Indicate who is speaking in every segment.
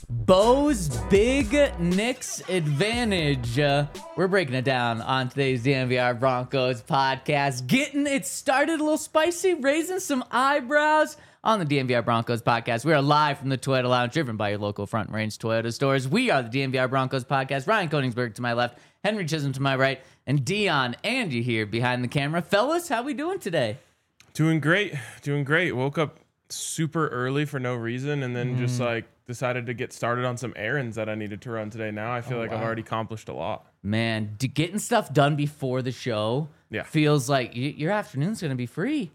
Speaker 1: Bo's Big Knicks Advantage. We're breaking it down on today's DNVR Broncos podcast. Getting it started a little spicy, raising some eyebrows on the DNVR Broncos podcast. We are live from the Toyota Lounge, driven by your local Front Range Toyota stores. We are the DNVR Broncos podcast. Ryan Koenigsberg to my left, Henry Chisholm to my right, and Dion Angie here behind the camera. Fellas, how we doing today?
Speaker 2: Doing great. Woke up super early for no reason, and then just decided to get started on some errands that I needed to run today. Now I feel I've already accomplished a lot.
Speaker 1: Man, getting stuff done before the show feels like your afternoon's going to be free.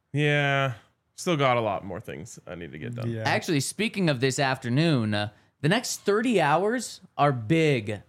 Speaker 2: Yeah, still got a lot more things I need to get done.
Speaker 1: Yeah. Actually, speaking of this afternoon, the next 30 hours are big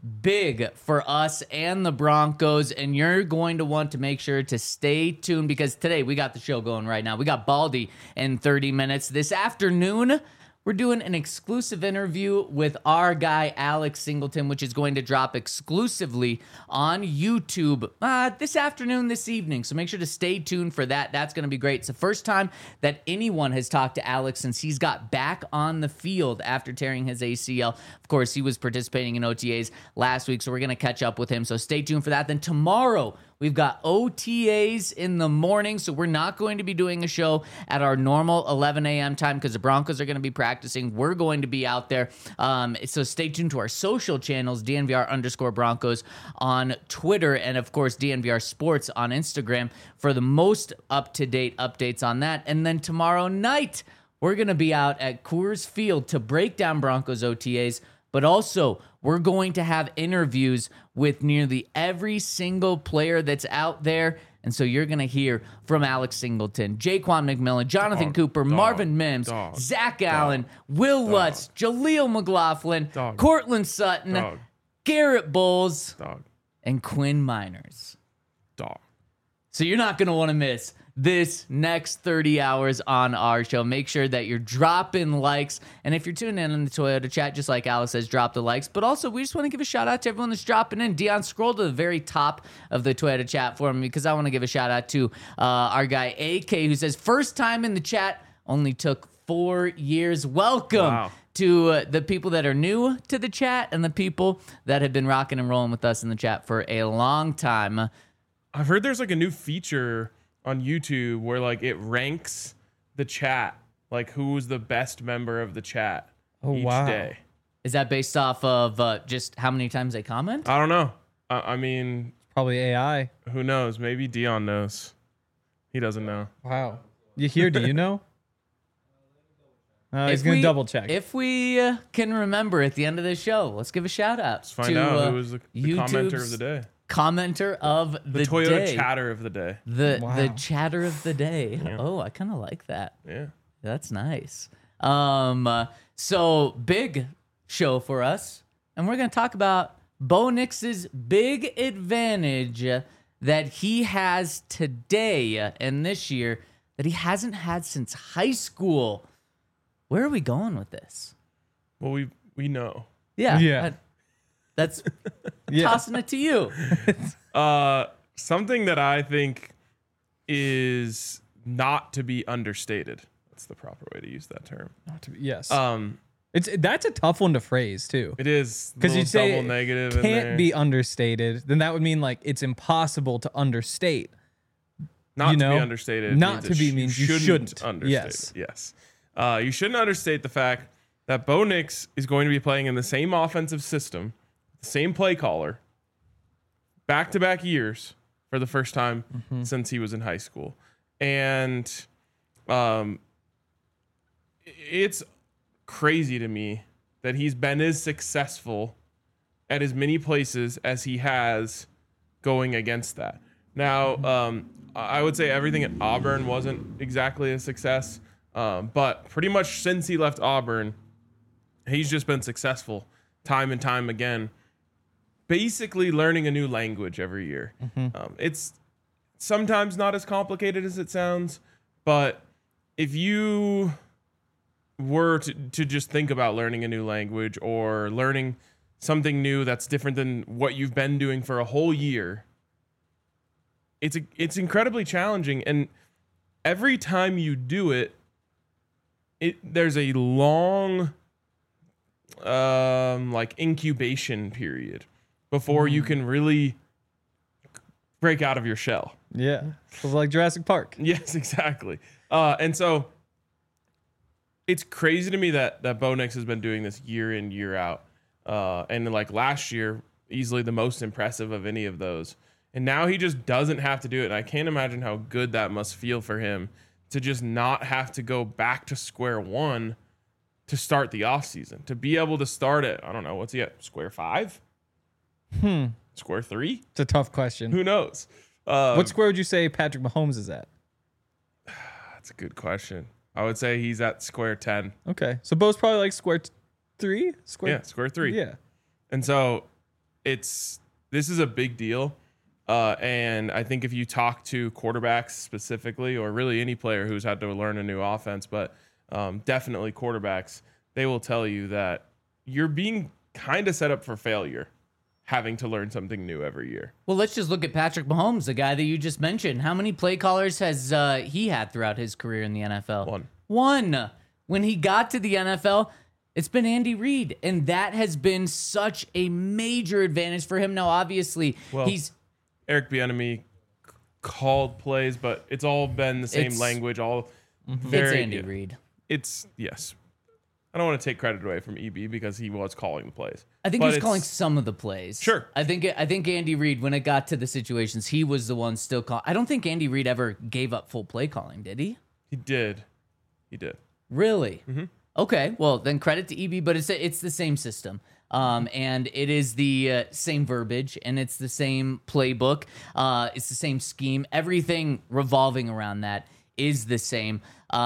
Speaker 1: for us and the Broncos, and you're going to want to make sure to stay tuned because today we got the show going right now. We got Baldy in 30 minutes. This afternoon, we're doing an exclusive interview with our guy, Alex Singleton, which is going to drop exclusively on YouTube this afternoon, this evening. So make sure to stay tuned for that. That's going to be great. It's the first time that anyone has talked to Alex since he's got back on the field after tearing his ACL. Of course, he was participating in OTAs last week, so we're going to catch up with him. So stay tuned for that. Then tomorrow, we've got OTAs in the morning, so we're not going to be doing a show at our normal 11 a.m. time because the Broncos are going to be practicing. We're going to be out there. So stay tuned to our social channels, DNVR_Broncos on Twitter, and of course, DNVR Sports on Instagram for the most up-to-date updates on that. And then tomorrow night, we're going to be out at Coors Field to break down Broncos OTAs, but also we're going to have interviews with nearly every single player that's out there. And so you're going to hear from Alex Singleton, Jaquan McMillan, Jonathan Cooper, Marvin Mims, Zach Allen, Will Lutz, Jaleel McLaughlin, Cortland Sutton, Garrett Bowles, and Quinn Miners. So you're not going to want to miss this next 30 hours on our show. Make sure that you're dropping likes. And if you're tuning in on the Toyota chat, just like Alice says, drop the likes. But also, we just want to give a shout out to everyone that's dropping in. Dion, scroll to the very top of the Toyota chat for me because I want to give a shout out to our guy, AK, who says, first time in the chat, only took 4 years. Welcome to the people that are new to the chat and the people that have been rocking and rolling with us in the chat for a long time.
Speaker 2: I've heard there's like a new feature on YouTube where like it ranks the chat, like who's the best member of the chat each day.
Speaker 1: Is that based off of just how many times they comment?
Speaker 2: I don't know. I mean,
Speaker 3: probably AI.
Speaker 2: Who knows? Maybe Dion knows. He doesn't know.
Speaker 3: Wow. You here? Do you know? He's going to double check.
Speaker 1: If we can remember at the end of the show, let's give a shout out.
Speaker 2: Let's find out who was the commenter of the day.
Speaker 1: Commenter of the
Speaker 2: Toyota
Speaker 1: day.
Speaker 2: chatter of the day.
Speaker 1: The chatter of the day. Yeah. Oh, I kind of like that.
Speaker 2: Yeah.
Speaker 1: That's nice. So big show for us. And we're going to talk about Bo Nix's big advantage that he has today and this year that he hasn't had since high school. Where are we going with this?
Speaker 2: Well, we know.
Speaker 1: Yeah. That's tossing it to you.
Speaker 2: Something that I think is not to be understated. That's the proper way to use that term.
Speaker 3: Not to be, yes. That's a tough one to phrase too.
Speaker 2: It is
Speaker 3: because you say
Speaker 2: double negative
Speaker 3: can't be understated. Then that would mean like it's impossible to understate.
Speaker 2: Not to be understated.
Speaker 3: Not to be means you shouldn't
Speaker 2: understate. Yes. You shouldn't understate the fact that Bo Nix is going to be playing in the same offensive system. Same play caller, back-to-back years for the first time since he was in high school. And it's crazy to me that he's been as successful at as many places as he has going against that. Now, I would say everything at Auburn wasn't exactly a success, but pretty much since he left Auburn, he's just been successful time and time again. Basically learning a new language every year. It's sometimes not as complicated as it sounds, but if you were to just think about learning a new language or learning something new that's different than what you've been doing for a whole year, it's incredibly challenging. And every time you do it, there's a long like incubation period before you can really break out of your shell.
Speaker 3: Yeah. It was like Jurassic Park.
Speaker 2: Yes, exactly. And so it's crazy to me that Bo Nix has been doing this year in, year out. And like last year, easily the most impressive of any of those. And now he just doesn't have to do it. And I can't imagine how good that must feel for him to just not have to go back to square one to start the offseason. To be able to start at, I don't know, what's he at? Square 5? Square 3?
Speaker 3: It's a tough question.
Speaker 2: Who knows?
Speaker 3: What square would you say Patrick Mahomes is at?
Speaker 2: That's a good question. I would say he's at square 10.
Speaker 3: Okay. So Bo's probably like square 3?
Speaker 2: Yeah, square 3.
Speaker 3: Yeah.
Speaker 2: And so this is a big deal. And I think if you talk to quarterbacks specifically, or really any player who's had to learn a new offense, but definitely quarterbacks, they will tell you that you're being kind of set up for failure having to learn something new every year.
Speaker 1: Well, let's just look at Patrick Mahomes, the guy that you just mentioned. How many play callers has he had throughout his career in the NFL? One. When he got to the NFL, it's been Andy Reid, and that has been such a major advantage for him. Now, obviously, he's
Speaker 2: Eric Bieniemy called plays, but it's all been the same language. All very.
Speaker 1: It's Andy Reid.
Speaker 2: It's yes. I don't want to take credit away from EB because he was calling the plays.
Speaker 1: I think he was calling some of the plays.
Speaker 2: Sure.
Speaker 1: I think Andy Reid, when it got to the situations, he was the one still calling. I don't think Andy Reid ever gave up full play calling, did he?
Speaker 2: He did.
Speaker 1: Really? Mm-hmm. Okay. Well, then credit to EB, but it's the same system. And it is the same verbiage, and it's the same playbook. It's the same scheme. Everything revolving around that is the same.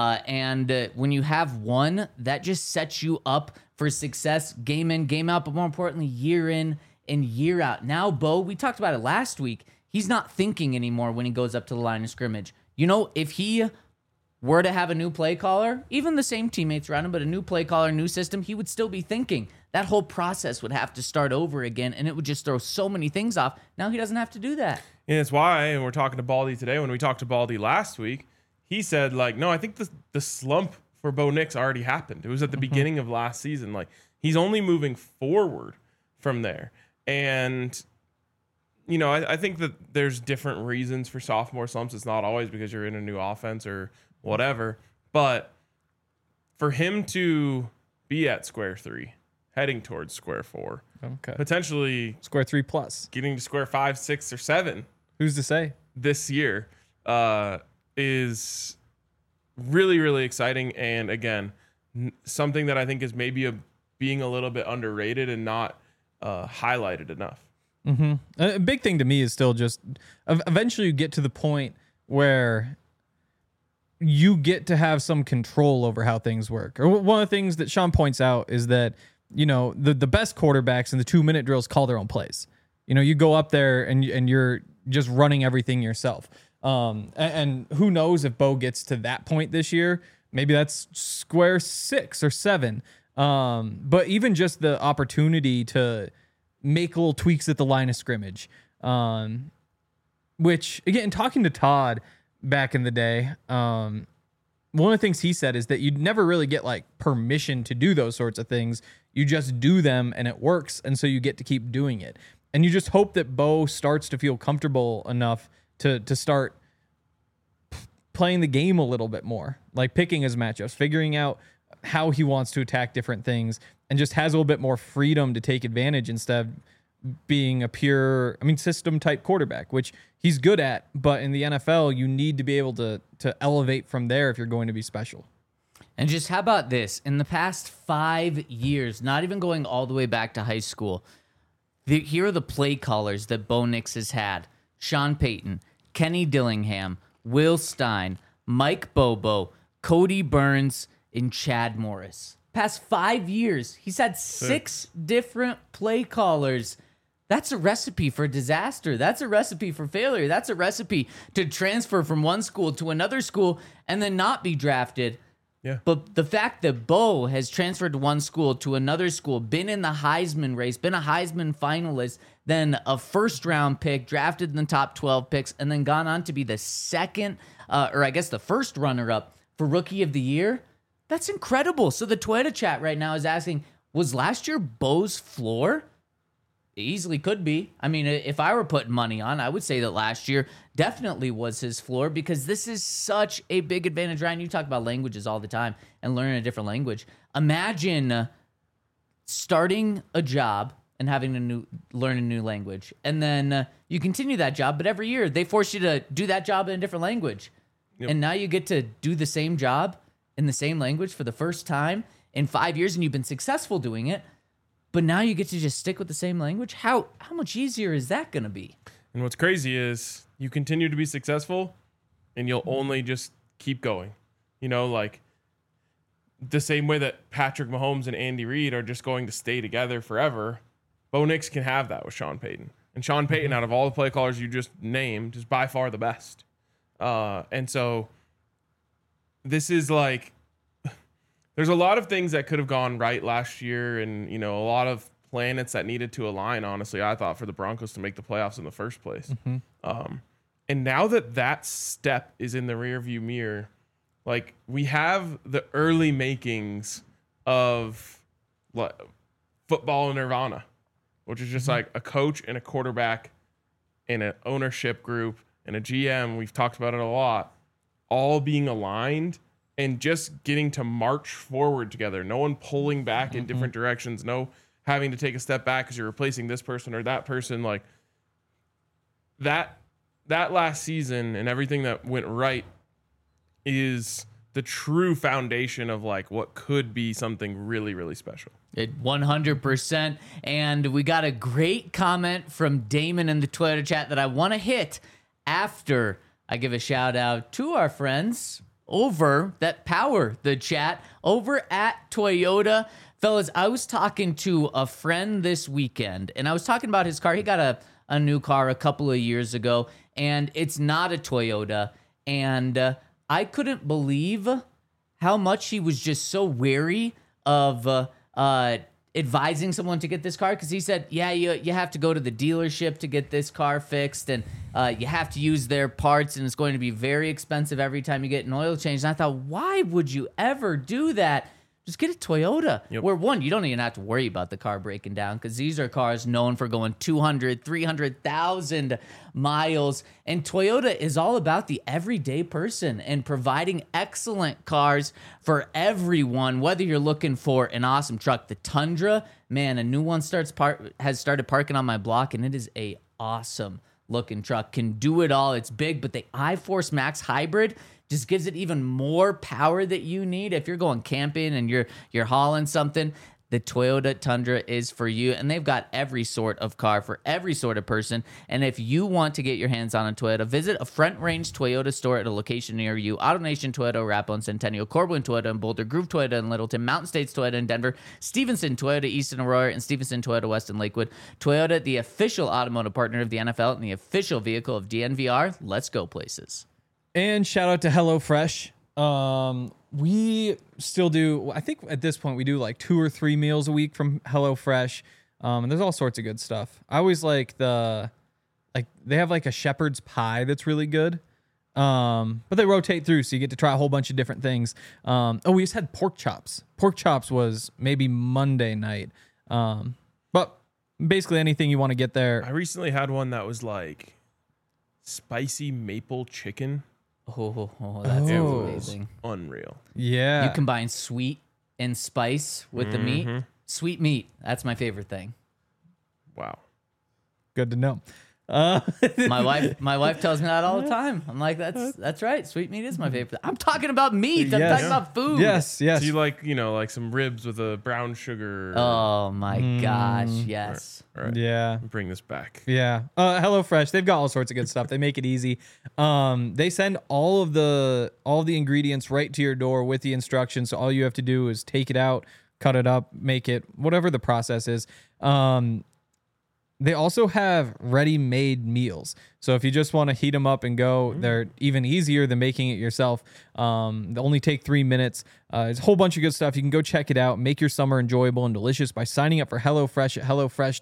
Speaker 1: And when you have one, that just sets you up for success game in, game out, but more importantly, year in and year out. Now, Bo, we talked about it last week. He's not thinking anymore when he goes up to the line of scrimmage. You know, if he were to have a new play caller, even the same teammates around him, but a new play caller, new system, he would still be thinking. That whole process would have to start over again, and it would just throw so many things off. Now he doesn't have to do that.
Speaker 2: And it's why, and we're talking to Baldy today, when we talked to Baldy last week, he said, like, no, I think the slump for Bo Nix already happened. It was at the beginning of last season. Like, he's only moving forward from there. And, you know, I think that there's different reasons for sophomore slumps. It's not always because you're in a new offense or whatever. But for him to be at square 3, heading towards square 4, potentially
Speaker 3: square 3 plus,
Speaker 2: getting to square 5, 6, or 7.
Speaker 3: Who's to say?
Speaker 2: This year is really, really exciting. And again, something that I think is maybe being a little bit underrated and not highlighted enough.
Speaker 3: Mm-hmm. A big thing to me is still just eventually you get to the point where you get to have some control over how things work. Or one of the things that Sean points out is that, you know, the best quarterbacks in the 2-minute drills call their own plays. You know, you go up there and you're just running everything yourself. And who knows if Bo gets to that point this year? Maybe that's square 6 or 7. But even just the opportunity to make little tweaks at the line of scrimmage, which again, talking to Todd back in the day, one of the things he said is that you'd never really get like permission to do those sorts of things. You just do them and it works. And so you get to keep doing it. And you just hope that Bo starts to feel comfortable enough to start playing the game a little bit more, like picking his matchups, figuring out how he wants to attack different things, and just has a little bit more freedom to take advantage instead of being a pure, system type quarterback, which he's good at. But in the NFL, you need to be able to elevate from there if you're going to be special.
Speaker 1: And just how about this? In the past 5 years, not even going all the way back to high school, here are the play callers that Bo Nix has had. Sean Payton, Kenny Dillingham, Will Stein, Mike Bobo, Cody Burns, and Chad Morris. Past 5 years, he's had 6 different play callers. That's a recipe for disaster. That's a recipe for failure. That's a recipe to transfer from one school to another school and then not be drafted.
Speaker 2: Yeah.
Speaker 1: But the fact that Bo has transferred to one school to another school, been in the Heisman race, been a Heisman finalist, then a first-round pick, drafted in the top 12 picks, and then gone on to be the the first runner-up for Rookie of the Year, that's incredible. So the Toyota chat right now is asking, Was last year Bo's floor? It easily could be. I mean, if I were putting money on, I would say that last year definitely was his floor because this is such a big advantage. Ryan, you talk about languages all the time and learning a different language. Imagine starting a job and having to learn a new language. And then you continue that job, but every year they force you to do that job in a different language.
Speaker 2: Yep.
Speaker 1: And now you get to do the same job in the same language for the first time in 5 years, and you've been successful doing it. But now you get to just stick with the same language. How much easier is that going to be?
Speaker 2: And what's crazy is you continue to be successful and you'll only just keep going. You know, like the same way that Patrick Mahomes and Andy Reid are just going to stay together forever. Bo Nix can have that with Sean Payton. And Sean Payton, out of all the play callers you just named, is by far the best. And so this is like, there's a lot of things that could have gone right last year and, you know, a lot of planets that needed to align, honestly, I thought, for the Broncos to make the playoffs in the first place. And now that step is in the rearview mirror, like we have the early makings of football nirvana, which is just like a coach and a quarterback and an ownership group and a GM. We've talked about it a lot, all being aligned and just getting to march forward together. No one pulling back in different directions. No having to take a step back because you're replacing this person or that person. Like that last season and everything that went right is the true foundation of like what could be something really, really special.
Speaker 1: It 100%. And we got a great comment from Damon in the Twitter chat that I want to hit after I give a shout out to our friends over that power the chat over at Toyota. Fellas, I was talking to a friend this weekend and I was talking about his car. He got a new car a couple of years ago and it's not a Toyota. And I couldn't believe how much he was just so wary of advising someone to get this car, because he said, yeah, you have to go to the dealership to get this car fixed, and you have to use their parts, and it's going to be very expensive every time you get an oil change. And I thought, why would you ever do that? Just get a Toyota.
Speaker 2: Yep.
Speaker 1: Where one, you don't even have to worry about the car breaking down because these are cars known for going 200, 300,000 miles. And Toyota is all about the everyday person and providing excellent cars for everyone, whether you're looking for an awesome truck. The Tundra, man, a new one has started parking on my block, and it is a awesome looking truck. Can do it all. It's big, but the iForce Max Hybrid just gives it even more power that you need. If you're going camping and you're hauling something, the Toyota Tundra is for you. And they've got every sort of car for every sort of person. And if you want to get your hands on a Toyota, visit a Front Range Toyota store at a location near you. AutoNation Toyota, Arapahoe and Centennial, Corwin Toyota in Boulder, Groove Toyota in Littleton, Mountain States Toyota in Denver, Stevenson Toyota East in Aurora, and Stevenson Toyota West in Lakewood. Toyota, the official automotive partner of the NFL and the official vehicle of DNVR. Let's go places.
Speaker 3: And shout out to HelloFresh. We still do, I think at this point we do like 2 or 3 meals a week from HelloFresh. And there's all sorts of good stuff. I always like they have like a shepherd's pie that's really good. But they rotate through, so you get to try a whole bunch of different things. We just had pork chops. Pork chops was maybe Monday night. But basically anything you want to get there.
Speaker 2: I recently had one that was like spicy maple chicken.
Speaker 1: Oh, that sounds amazing.
Speaker 2: Unreal.
Speaker 3: Yeah.
Speaker 1: You combine sweet and spice with the meat. Sweet meat. That's my favorite thing.
Speaker 2: Wow.
Speaker 3: Good to know.
Speaker 1: My wife tells me that all the time. I'm like, that's right. Sweet meat is my favorite. I'm talking about meat. I'm talking about food.
Speaker 3: Yes.
Speaker 2: So you like, like some ribs with a brown sugar.
Speaker 1: Oh my gosh. Yes.
Speaker 2: All right.
Speaker 3: Yeah.
Speaker 2: Bring this back.
Speaker 3: Yeah. HelloFresh, they've got all sorts of good stuff. They make it easy. They send all of the ingredients right to your door with the instructions. So all you have to do is take it out, cut it up, make it, whatever the process is. They also have ready-made meals. So if you just want to heat them up and go, they're even easier than making it yourself. They only take 3 minutes. It's a whole bunch of good stuff. You can go check it out. Make your summer enjoyable and delicious by signing up for HelloFresh at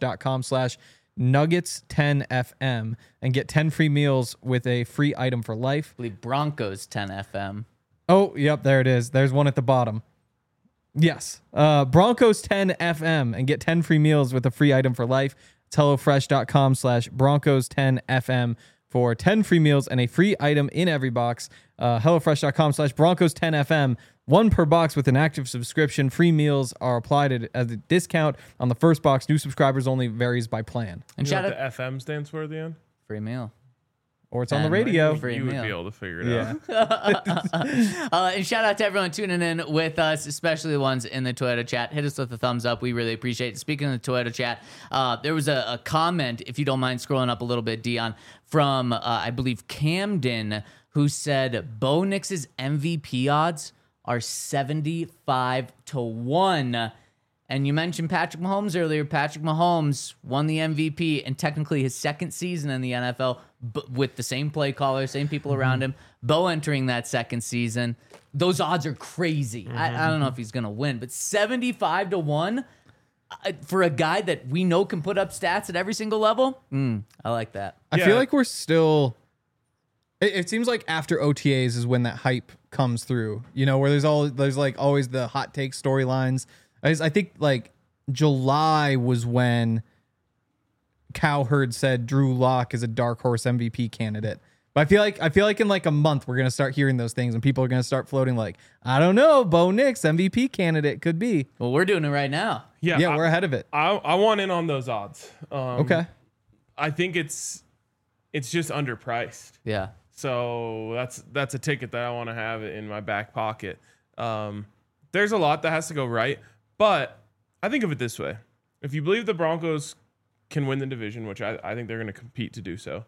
Speaker 3: HelloFresh.com/Nuggets10FM and get 10 free meals with a free item for life.
Speaker 1: I believe Broncos 10 FM.
Speaker 3: Oh, yep, there it is. There's one at the bottom. Yes. Broncos 10 FM and get 10 free meals with a free item for life. It's HelloFresh.com/Broncos 10 FM for 10 free meals and a free item in every box. HelloFresh.com/Broncos 10 FM. One per box with an active subscription. Free meals are applied as a discount on the first box. New subscribers only, varies by plan.
Speaker 1: And
Speaker 2: You know
Speaker 1: shout
Speaker 2: what
Speaker 1: out
Speaker 2: the FM stands for at the end?
Speaker 1: free meal.
Speaker 3: Or it's on the
Speaker 1: And
Speaker 3: radio.
Speaker 1: free
Speaker 2: You would
Speaker 1: meal.
Speaker 2: be able to figure it out.
Speaker 1: And shout out to everyone tuning in with us, especially the ones in the Toyota chat. Hit us with a thumbs up. We really appreciate it. Speaking of the Toyota chat, there was a comment, if you don't mind scrolling up a little bit, Dion, from, I believe, Camden, who said Bo Nix's MVP odds are 75-1. And you mentioned Patrick Mahomes earlier. Patrick Mahomes won the MVP and technically his second season in the NFL with the same play caller, same people around him. Bo entering that second season. Those odds are crazy. I don't know if he's going to win, but 75-1 for a guy that we know can put up stats at every single level. I like that.
Speaker 3: I
Speaker 2: Yeah.
Speaker 3: feel like we're still. It seems like after OTAs is when that hype comes through. You know, where there's like always the hot take storylines. I think like July was when Cowherd said Drew Lock is a dark horse MVP candidate. But I feel like in like a month we're gonna start hearing those things and people are gonna start floating like, I don't know, Bo Nix MVP candidate could be.
Speaker 1: Well, we're doing it right now.
Speaker 3: Yeah, we're ahead of it.
Speaker 2: I want in on those odds.
Speaker 3: Okay.
Speaker 2: I think it's just underpriced.
Speaker 1: Yeah.
Speaker 2: So that's a ticket that I want to have in my back pocket. There's a lot that has to go right, but I think of it this way: if you believe the Broncos can win the division, which I think they're going to compete to do so,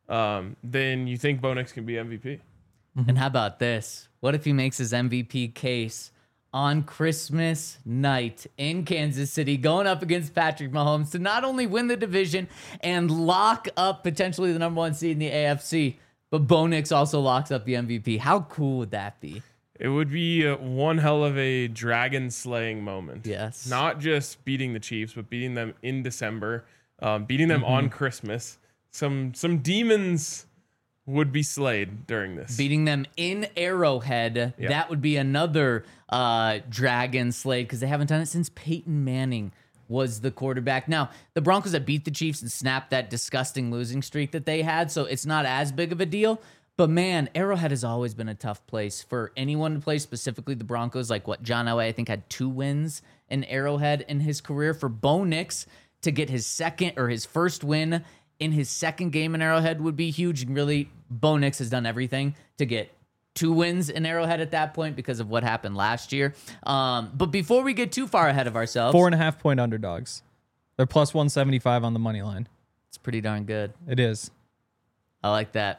Speaker 2: then you think Bo Nix can be MVP.
Speaker 1: And how about this? What if he makes his MVP case on Christmas night in Kansas City, going up against Patrick Mahomes to not only win the division and lock up potentially the number one seed in the AFC, but Bo Nix also locks up the MVP? How cool would that be?
Speaker 2: It would be one hell of a dragon slaying moment.
Speaker 1: Yes.
Speaker 2: Not just beating the Chiefs, but beating them in December, beating them on Christmas. Some demons would be slayed during this.
Speaker 1: Beating them in Arrowhead,
Speaker 2: Yeah.
Speaker 1: that would be another dragon slay because they haven't done it since Peyton Manning was the quarterback. Now, the Broncos have beat the Chiefs and snapped that disgusting losing streak that they had, so it's not as big of a deal. But man, Arrowhead has always been a tough place for anyone to play, specifically the Broncos. Like what John Elway, I think, had 2 wins in Arrowhead in his career. For Bo Nix to get his first win in his second game in Arrowhead would be huge. And really, Bo Nix has done everything to get 2 wins in Arrowhead at that point because of what happened last year. But before we get too far ahead of ourselves,
Speaker 3: 4.5 point underdogs. They're plus 175 on the money line.
Speaker 1: it's pretty darn good.
Speaker 3: It is.
Speaker 1: I like that.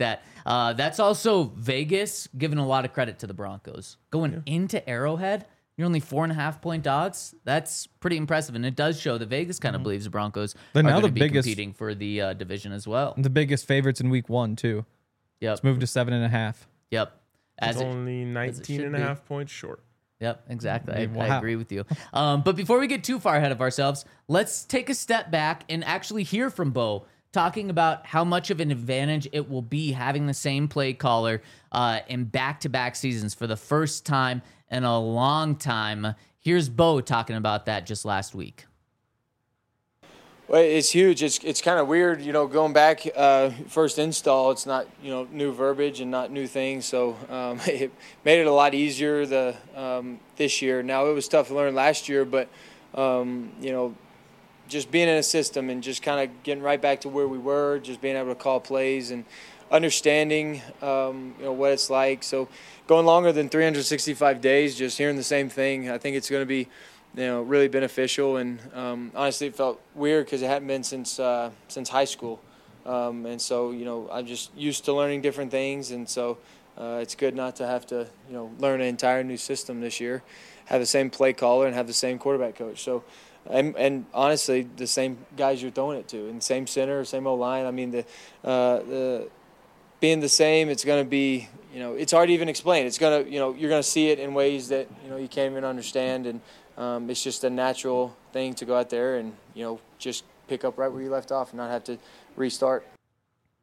Speaker 1: That's also Vegas giving a lot of credit to the Broncos. Going into Arrowhead, you're only 4.5 point dogs. That's pretty impressive. And it does show that Vegas kind of believes the Broncos
Speaker 3: They're
Speaker 1: are
Speaker 3: now
Speaker 1: going
Speaker 3: the
Speaker 1: to be
Speaker 3: biggest-
Speaker 1: competing for the division as well.
Speaker 3: The biggest favorites in week 1 too.
Speaker 1: Yep.
Speaker 3: It's moved to 7.5.
Speaker 1: Yep.
Speaker 2: It's
Speaker 1: As it,
Speaker 2: only 19 and a
Speaker 1: be.
Speaker 2: half points short.
Speaker 1: Yep, exactly. I
Speaker 3: Wow.
Speaker 1: agree with you. But before we get too far ahead of ourselves, let's take a step back and actually hear from Bo talking about how much of an advantage it will be having the same play caller in back-to-back seasons for the first time in a long time. Here's Bo talking about that just last week.
Speaker 4: Well, it's huge. It's kind of weird, going back first install. It's not new verbiage and not new things, so it made it a lot easier this year. Now it was tough to learn last year, but just being in a system and just kind of getting right back to where we were, just being able to call plays and understanding what it's like. So going longer than 365 days, just hearing the same thing, I think it's going to be really beneficial. And honestly, it felt weird because it hadn't been since high school. And so, I'm just used to learning different things. And so it's good not to have to, learn an entire new system this year, have the same play caller and have the same quarterback coach. So, and honestly, the same guys you're throwing it to, and same center, same O-line. I mean, the being the same, it's going to be, it's hard to even explain. It's going to, you're going to see it in ways that, you can't even understand. And it's just a natural thing to go out there and, just pick up right where you left off and not have to restart.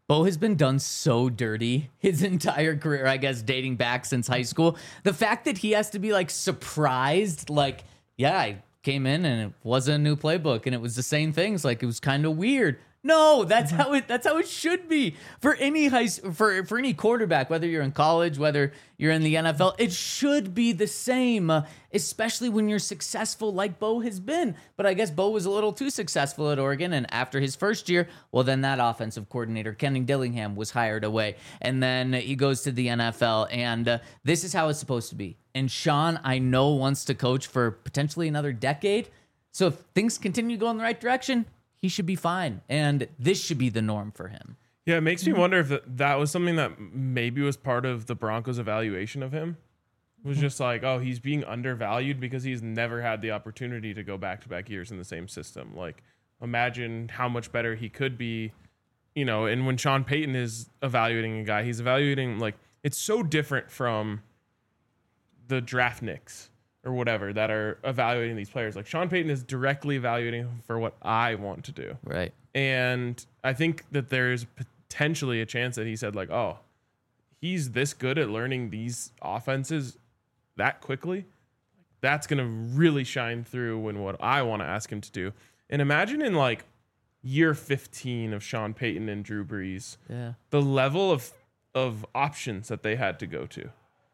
Speaker 1: Bo has been done so dirty his entire career, I guess, dating back since high school. The fact that he has to be like surprised, like, yeah, I came in and it wasn't a new playbook and it was the same things. Like, it was kind of weird. No, that's how it should be for any for any quarterback, whether you're in college, whether you're in the NFL. It should be the same, especially when you're successful like Bo has been. But I guess Bo was a little too successful at Oregon, and after his first year, well, then that offensive coordinator, Kenny Dillingham, was hired away, and then he goes to the NFL, and this is how it's supposed to be. And Sean, I know, wants to coach for potentially another decade. So if things continue going the right direction, he should be fine, and this should be the norm for him.
Speaker 2: Yeah, it makes me wonder if that was something that maybe was part of the Broncos' evaluation of him. It was just like, oh, he's being undervalued because he's never had the opportunity to go back-to-back years in the same system. Like, imagine how much better he could be, you know, and when Sean Payton is evaluating a guy, he's evaluating, like, it's so different from the draft nicks or whatever that are evaluating these players. Like, Sean Payton is directly evaluating for what I want to do.
Speaker 1: Right.
Speaker 2: And I think that there's potentially a chance that he said, like, oh, he's this good at learning these offenses that quickly. That's going to really shine through in what I want to ask him to do. And imagine in like year 15 of Sean Payton and Drew Brees, the level of options that they had to go to.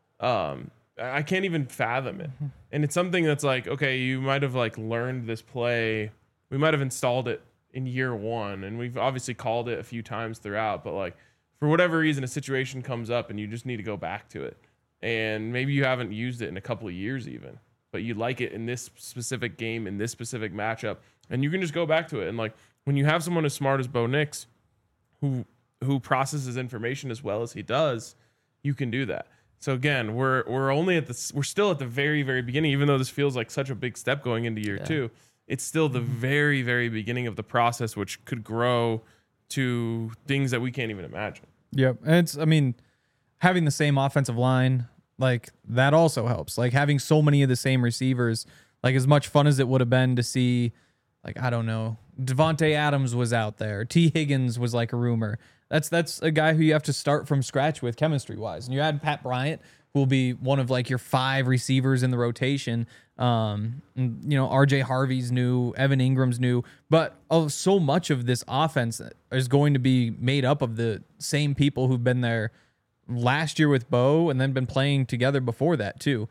Speaker 2: I can't even fathom it. And it's something that's like, okay, you might have like learned this play. We might have installed it in year one, and we've obviously called it a few times throughout, but like for whatever reason, a situation comes up and you just need to go back to it. And maybe you haven't used it in a couple of years even, but you like it in this specific game, in this specific matchup, and you can just go back to it. And like when you have someone as smart as Bo Nix who processes information as well as he does, you can do that. So again, we're still at the very, very beginning, even though this feels like such a big step going into year two. It's still the very, very beginning of the process, which could grow to things that we can't even imagine.
Speaker 3: Yep. And having the same offensive line, like that also helps. Like having so many of the same receivers, like as much fun as it would have been to see, like, I don't know, Devontae Adams was out there. T. Higgins was like a rumor. That's a guy who you have to start from scratch with chemistry wise. And you add Pat Bryant, who will be one of like your 5 receivers in the rotation. And, you know, RJ Harvey's new, Evan Ingram's new, but so much of this offense is going to be made up of the same people who've been there last year with Bo and then been playing together before that too.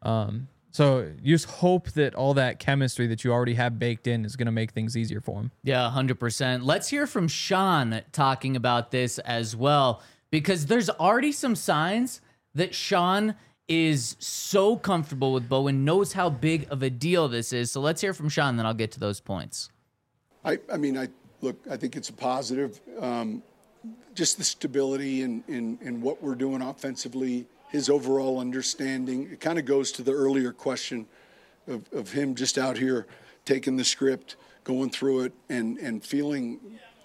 Speaker 3: So you just hope that all that chemistry that you already have baked in is going to make things easier for him.
Speaker 1: Yeah, 100%. Let's hear from Sean talking about this as well, because there's already some signs that Sean is so comfortable with Bo and knows how big of a deal this is. So let's hear from Sean, then I'll get to those points.
Speaker 5: I think it's a positive. Just the stability in what we're doing offensively, his overall understanding. It kind of goes to the earlier question of him just out here taking the script, going through it, and feeling,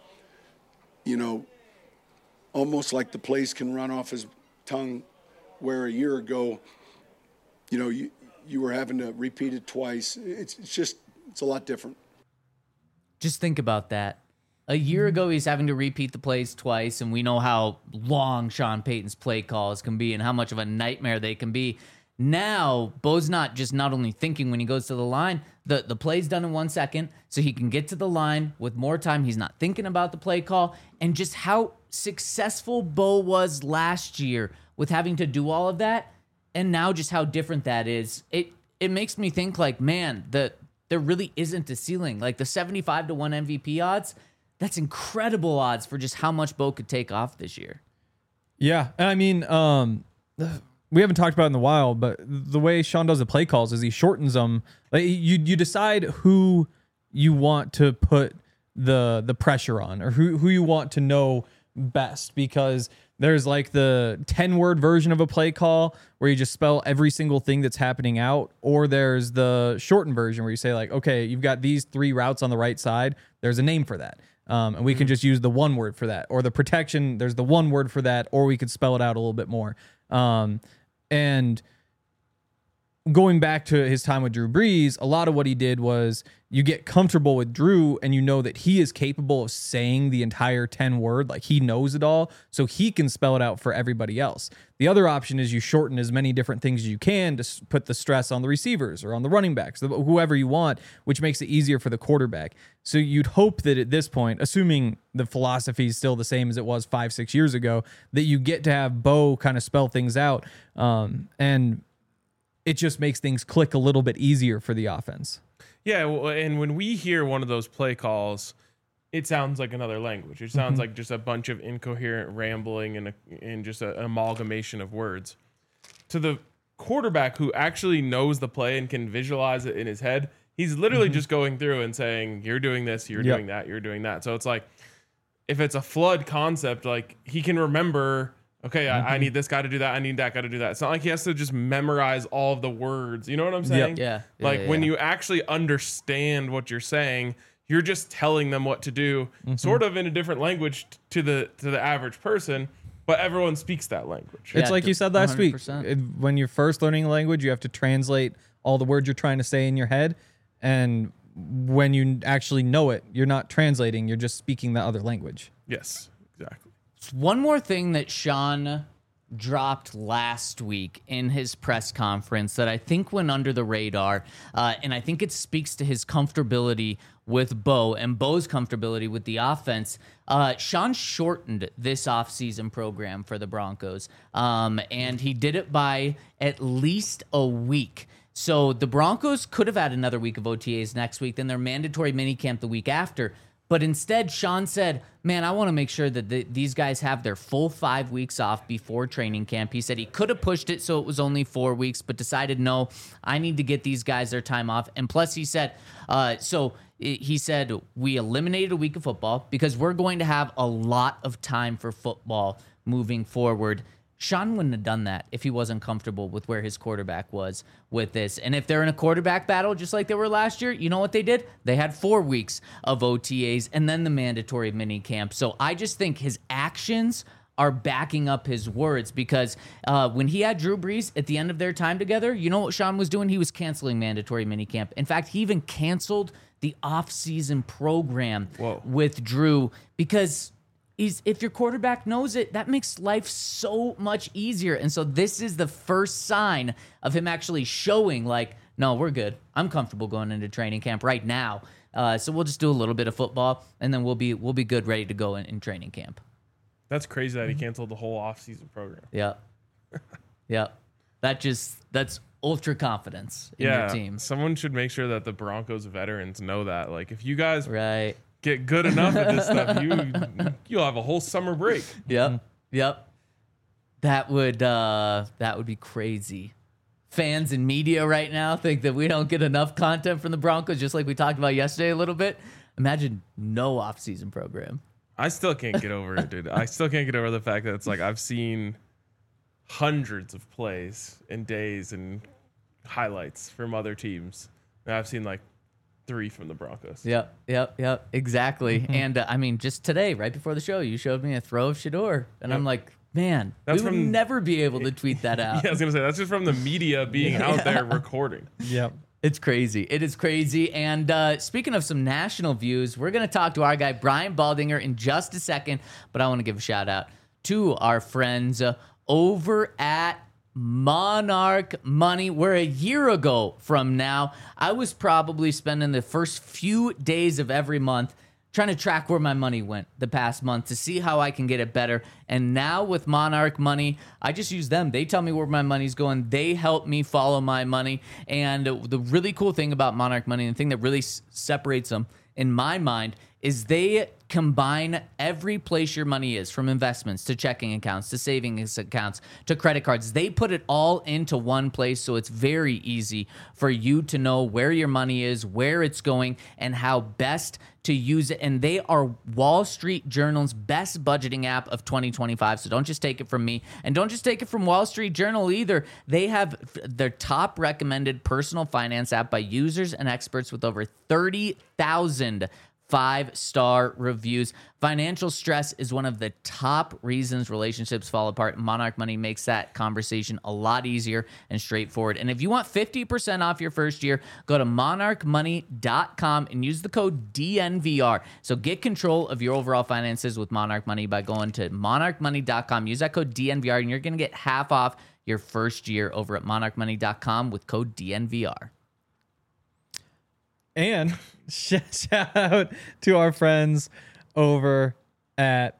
Speaker 5: you know, almost like the plays can run off his tongue, where a year ago, you know, you were having to repeat it twice. It's a lot different.
Speaker 1: Just think about that. A year ago, he's having to repeat the plays twice, and we know how long Sean Payton's play calls can be and how much of a nightmare they can be. Now, Bo's not only thinking when he goes to the line, the play's done in 1 second, so he can get to the line with more time. He's not thinking about the play call, and just how successful Bo was last year with having to do all of that, and now just how different that is. It makes me think, like, man, there really isn't a ceiling. Like the 75-1 MVP odds, that's incredible odds for just how much Bo could take off this year.
Speaker 3: Yeah. And I mean, we haven't talked about it in a while, but the way Sean does the play calls is he shortens them. Like you decide who you want to put the pressure on, or who you want to know best, because there's like the 10-word version of a play call where you just spell every single thing that's happening out, or there's the shortened version where you say like, okay, you've got these 3 routes on the right side. There's a name for that. And we can just use the 1 word for that, or the protection. There's the 1 word for that, or we could spell it out a little bit more. And going back to his time with Drew Brees, a lot of what he did was you get comfortable with Drew and you know that he is capable of saying the entire 10 word, like he knows it all, so he can spell it out for everybody else. The other option is you shorten as many different things as you can to put the stress on the receivers or on the running backs, whoever you want, which makes it easier for the quarterback. So you'd hope that at this point, assuming the philosophy is still the same as it was 5-6 years ago, that you get to have Bo kind of spell things out, and it just makes things click a little bit easier for the offense.
Speaker 2: Yeah, well, and when we hear one of those play calls, it sounds like another language. It sounds like just a bunch of incoherent rambling and just an amalgamation of words. To the quarterback who actually knows the play and can visualize it in his head, he's literally just going through and saying, you're doing this, you're doing that, you're doing that. So it's like, if it's a flood concept, like he can remember, okay, I need this guy to do that. I need that guy to do that. It's not like he has to just memorize all of the words. You know what I'm saying?
Speaker 1: Yeah.
Speaker 2: Like when you actually understand what you're saying, you're just telling them what to do, sort of in a different language to the average person, but everyone speaks that language.
Speaker 3: It's
Speaker 1: Yeah,
Speaker 3: like you said last
Speaker 1: 100%.
Speaker 3: week. When you're first learning a language, you have to translate all the words you're trying to say in your head. And when you actually know it, you're not translating, you're just speaking the other language.
Speaker 2: Yes, exactly.
Speaker 1: One more thing that Sean dropped last week in his press conference that I think went under the radar, and I think it speaks to his comfortability with Bo and Bo's comfortability with the offense. Sean shortened this offseason program for the Broncos, and he did it by at least a week. So the Broncos could have had another week of OTAs next week, then their mandatory minicamp the week after. But instead, Sean said, man, I want to make sure that these guys have their full 5 weeks off before training camp. He said he could have pushed it so it was only 4 weeks, but decided, no, I need to get these guys their time off. And plus, he said, he said, we eliminated a week of football because we're going to have a lot of time for football moving forward. Sean wouldn't have done that if he wasn't comfortable with where his quarterback was with this. And if they're in a quarterback battle, just like they were last year, you know what they did? They had 4 weeks of OTAs and then the mandatory mini camp. So I just think his actions are backing up his words because when he had Drew Brees at the end of their time together, you know what Sean was doing? He was canceling mandatory mini camp. In fact, he even canceled the off-season program with Drew because if your quarterback knows it, that makes life so much easier. And so this is the first sign of him actually showing like, no, we're good. I'm comfortable going into training camp right now. So we'll just do a little bit of football and then we'll be good, ready to go in training camp.
Speaker 2: That's crazy that he canceled the whole offseason program.
Speaker 1: Yeah. Yeah. That's ultra confidence in your team.
Speaker 2: Someone should make sure that the Broncos veterans know that. Like if you guys
Speaker 1: Right.
Speaker 2: get good enough at this stuff, you'll have a whole summer break.
Speaker 1: Yep. That would be crazy. Fans and media right now think that we don't get enough content from the Broncos, just like we talked about yesterday a little bit. Imagine no off-season program.
Speaker 2: I still can't get over it, dude. I still can't get over the fact that it's like I've seen hundreds of plays and days and highlights from other teams. And I've seen like 3 from the Broncos.
Speaker 1: Yep, exactly. And I mean, just today, right before the show, you showed me a throw of Shador, and I'm like, man, we would never be able to tweet that out.
Speaker 2: Yeah, I was gonna say that's just from the media being out there recording.
Speaker 3: Yep.
Speaker 1: It's crazy. It is crazy. And speaking of some national views, we're going to talk to our guy, Brian Baldinger, in just a second. But I want to give a shout out to our friends over at Monarch Money, where a year ago from now, I was probably spending the first few days of every month trying to track where my money went the past month to see how I can get it better. And now with Monarch Money, I just use them. They tell me where my money's going. They help me follow my money. And the really cool thing about Monarch Money, and the thing that really separates them in my mind, is they combine every place your money is, from investments to checking accounts to savings accounts to credit cards. They put it all into one place, so it's very easy for you to know where your money is, where it's going, and how best to use it. And they are Wall Street Journal's best budgeting app of 2025. So don't just take it from me, and don't just take it from Wall Street Journal either. They have their top recommended personal finance app by users and experts with over 30,000 5-star reviews. Financial stress is one of the top reasons relationships fall apart. Monarch Money makes that conversation a lot easier and straightforward. And if you want 50% off your first year, go to monarchmoney.com and use the code DNVR. So get control of your overall finances with Monarch Money by going to monarchmoney.com. Use that code DNVR and you're going to get half off your first year over at monarchmoney.com with code DNVR.
Speaker 3: And shout out to our friends over at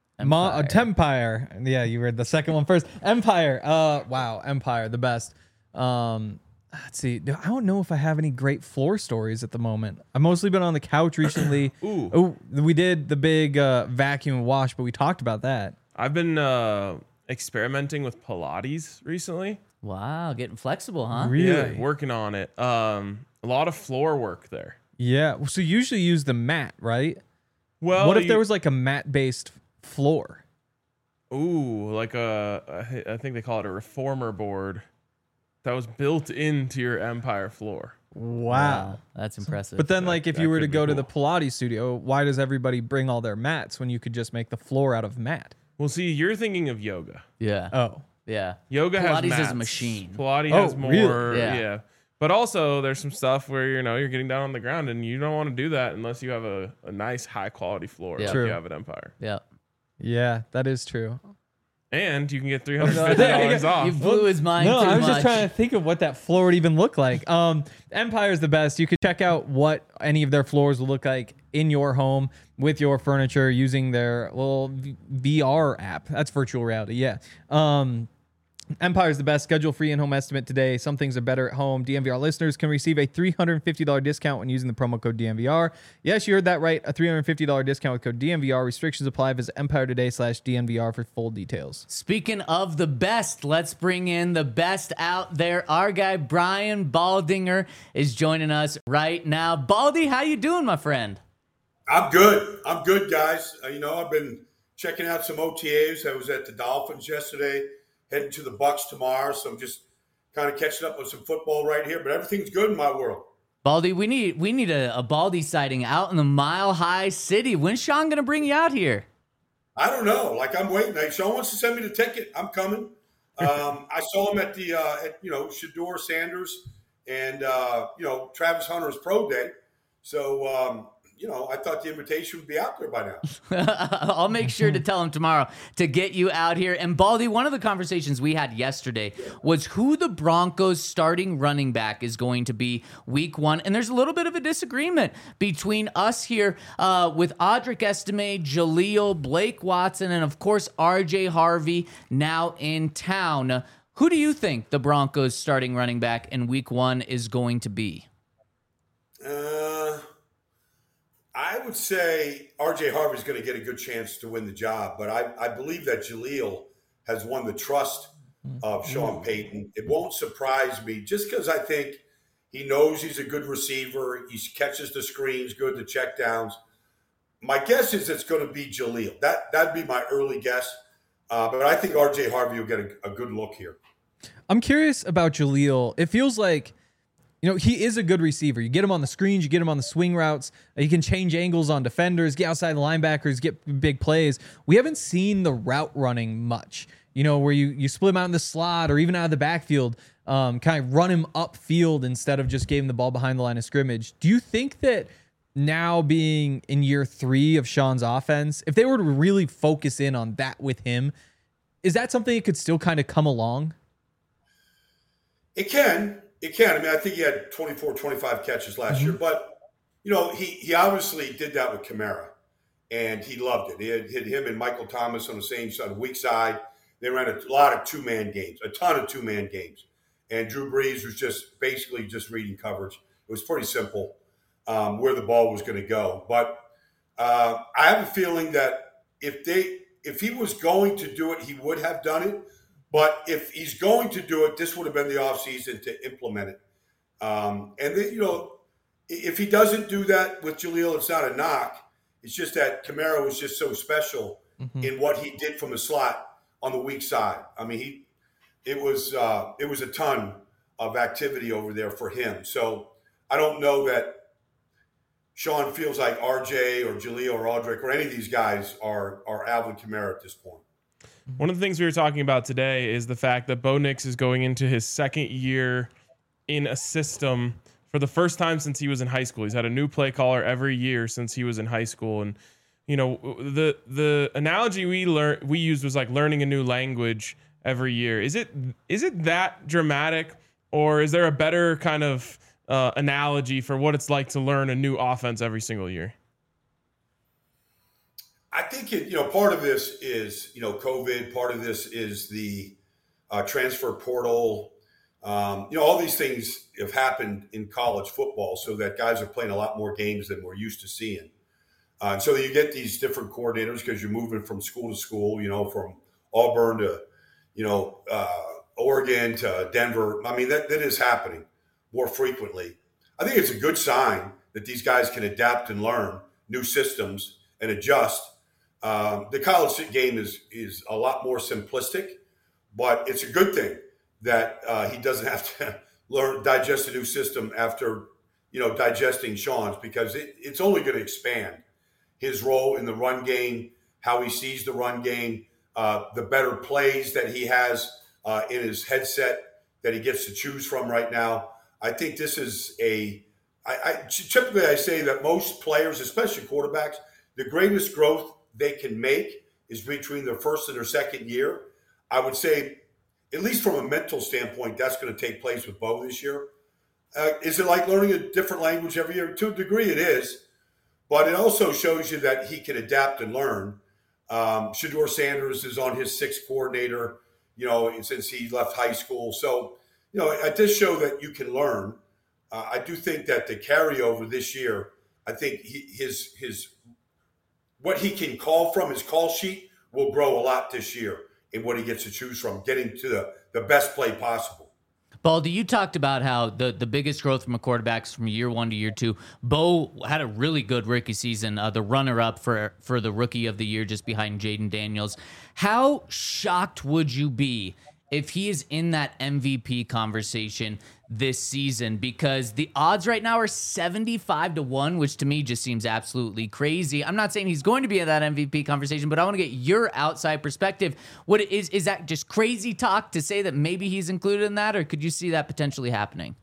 Speaker 3: Empire. Yeah, you read the second one first. Empire. Wow, Empire, the best. Let's see. I don't know if I have any great floor stories at the moment. I've mostly been on the couch recently.
Speaker 2: Ooh.
Speaker 3: Oh, we did the big vacuum and wash, but we talked about that.
Speaker 2: I've been experimenting with Pilates recently.
Speaker 1: Wow, getting flexible, huh?
Speaker 3: Really?
Speaker 2: Yeah, working on it. A lot of floor work there.
Speaker 3: Yeah. So you usually use the mat, right?
Speaker 2: Well,
Speaker 3: What if there was like a mat-based floor?
Speaker 2: Ooh, like I think they call it a reformer board that was built into your Empire floor.
Speaker 3: Wow.
Speaker 1: That's impressive.
Speaker 3: But then, like, if you were to
Speaker 2: could be
Speaker 3: go to the
Speaker 2: cool.
Speaker 3: Pilates studio, why does everybody bring all their mats when you could just make the floor out of mat?
Speaker 2: Well, see, you're thinking of yoga.
Speaker 1: yeah.
Speaker 3: Oh.
Speaker 1: Yeah.
Speaker 2: Yoga has
Speaker 1: Pilates is a
Speaker 2: mats.
Speaker 1: machine.
Speaker 2: Pilates
Speaker 3: Oh,
Speaker 2: has more.
Speaker 3: really?
Speaker 1: Yeah.
Speaker 2: Yeah. But also, there's some stuff where you're getting down on the ground, and you don't want to do that unless you have a nice, high quality floor
Speaker 1: Yeah.
Speaker 2: like
Speaker 3: True.
Speaker 2: you have at Empire.
Speaker 1: Yeah.
Speaker 3: Yeah, that is true.
Speaker 2: And you can get $350 off.
Speaker 1: You blew his mind
Speaker 3: No,
Speaker 1: too
Speaker 3: I was
Speaker 1: much.
Speaker 3: just trying to think of what that floor would even look like. Empire's the best. You could check out what any of their floors will look like in your home with your furniture using their little VR app. That's virtual reality. Yeah. Empire's the best. Schedule free in-home estimate today. Some things are better at home. DNVR listeners can receive a $350 discount when using the promo code DNVR. Yes, you heard that right. A $350 discount with code DNVR. Restrictions apply. Visit EmpireToday/DNVR for full details.
Speaker 1: Speaking of the best, let's bring in the best out there. Our guy Brian Baldinger is joining us right now. Baldy, how you doing, my friend?
Speaker 6: I'm good. I'm good, guys. I've been checking out some OTAs. I was at the Dolphins yesterday, heading to the Bucks tomorrow. So I'm just kind of catching up with some football right here. But everything's good in my world.
Speaker 1: Baldy, we need a Baldy sighting out in the Mile High City. When's Sean going to bring you out here?
Speaker 6: I don't know. I'm waiting. Sean wants to send me the ticket. I'm coming. I saw him at the Shedeur Sanders and Travis Hunter's pro day. So I thought the invitation would be out there by now.
Speaker 1: I'll make sure to tell him tomorrow to get you out here. And Baldy, one of the conversations we had yesterday was who the Broncos starting running back is going to be week 1. And there's a little bit of a disagreement between us here with Audric Estime, Jaleel, Blake Watson, and of course, RJ Harvey now in town. Who do you think the Broncos starting running back in week 1 is going to be?
Speaker 6: I would say RJ Harvey's going to get a good chance to win the job, but I believe that Jaleel has won the trust of Sean Payton. It won't surprise me just because I think he knows he's a good receiver. He catches the screens good, the checkdowns. My guess is it's going to be Jaleel. That'd be my early guess, but I think RJ Harvey will get a good look here.
Speaker 3: I'm curious about Jaleel. It feels like, he is a good receiver. You get him on the screens, you get him on the swing routes. He can change angles on defenders, get outside the linebackers, get big plays. We haven't seen the route running much, where you split him out in the slot or even out of the backfield, kind of run him upfield instead of just giving the ball behind the line of scrimmage. Do you think that now being in year 3 of Sean's offense, if they were to really focus in on that with him, is that something that could still kind of come along?
Speaker 6: It can. I mean, I think he had 24, 25 catches last year, but, he obviously did that with Kamara, and he loved it. He had hit him and Michael Thomas on the same side, the weak side. They ran a lot of two-man games, a ton of two-man games. And Drew Brees was just basically just reading coverage. It was pretty simple where the ball was going to go. But I have a feeling that if he was going to do it, he would have done it. But if he's going to do it, this would have been the offseason to implement it. And then, if he doesn't do that with Jaleel, it's not a knock. It's just that Kamara was just so special in what he did from the slot on the weak side. I mean, it was a ton of activity over there for him. So I don't know that Sean feels like RJ or Jaleel or Aldrick or any of these guys are Alvin Kamara at this point.
Speaker 2: One of the things we were talking about today is the fact that Bo Nix is going into his second year in a system for the first time since he was in high school. He's had a new play caller every year since he was in high school. And, you know, the analogy we used was like learning a new language every year. Is it that dramatic, or is there a better kind of analogy for what it's like to learn a new offense every single year?
Speaker 6: I think part of this is, COVID. Part of this is the transfer portal. All these things have happened in college football so that guys are playing a lot more games than we're used to seeing. And so you get these different coordinators because you're moving from school to school, from Auburn to, Oregon to Denver. I mean, that is happening more frequently. I think it's a good sign that these guys can adapt and learn new systems and adjust. The college game is a lot more simplistic, but it's a good thing that he doesn't have to digest a new system after, digesting Sean's, because it's only going to expand his role in the run game, how he sees the run game, the better plays that he has in his headset that he gets to choose from right now. I think this is typically I say that most players, especially quarterbacks, the greatest growth they can make is between their first and their second year. I would say, at least from a mental standpoint, that's going to take place with Bo this year. Is it like learning a different language every year? To a degree it is, but it also shows you that he can adapt and learn. Shedeur Sanders is on his sixth coordinator, since he left high school. So, it does show that you can learn. I do think that the carryover this year, I think his what he can call from his call sheet will grow a lot this year in what he gets to choose from, getting to the best play possible.
Speaker 1: Baldy, you talked about how the biggest growth from a quarterback is from year one to year two. Bo had a really good rookie season, the runner-up for the rookie of the year, just behind Jaden Daniels. How shocked would you be if he is in that MVP conversation this season? Because the odds right now are 75-1, which to me just seems absolutely crazy. I'm not saying he's going to be in that MVP conversation, but I want to get your outside perspective. What is that just crazy talk to say that maybe he's included in that, or could you see that potentially happening?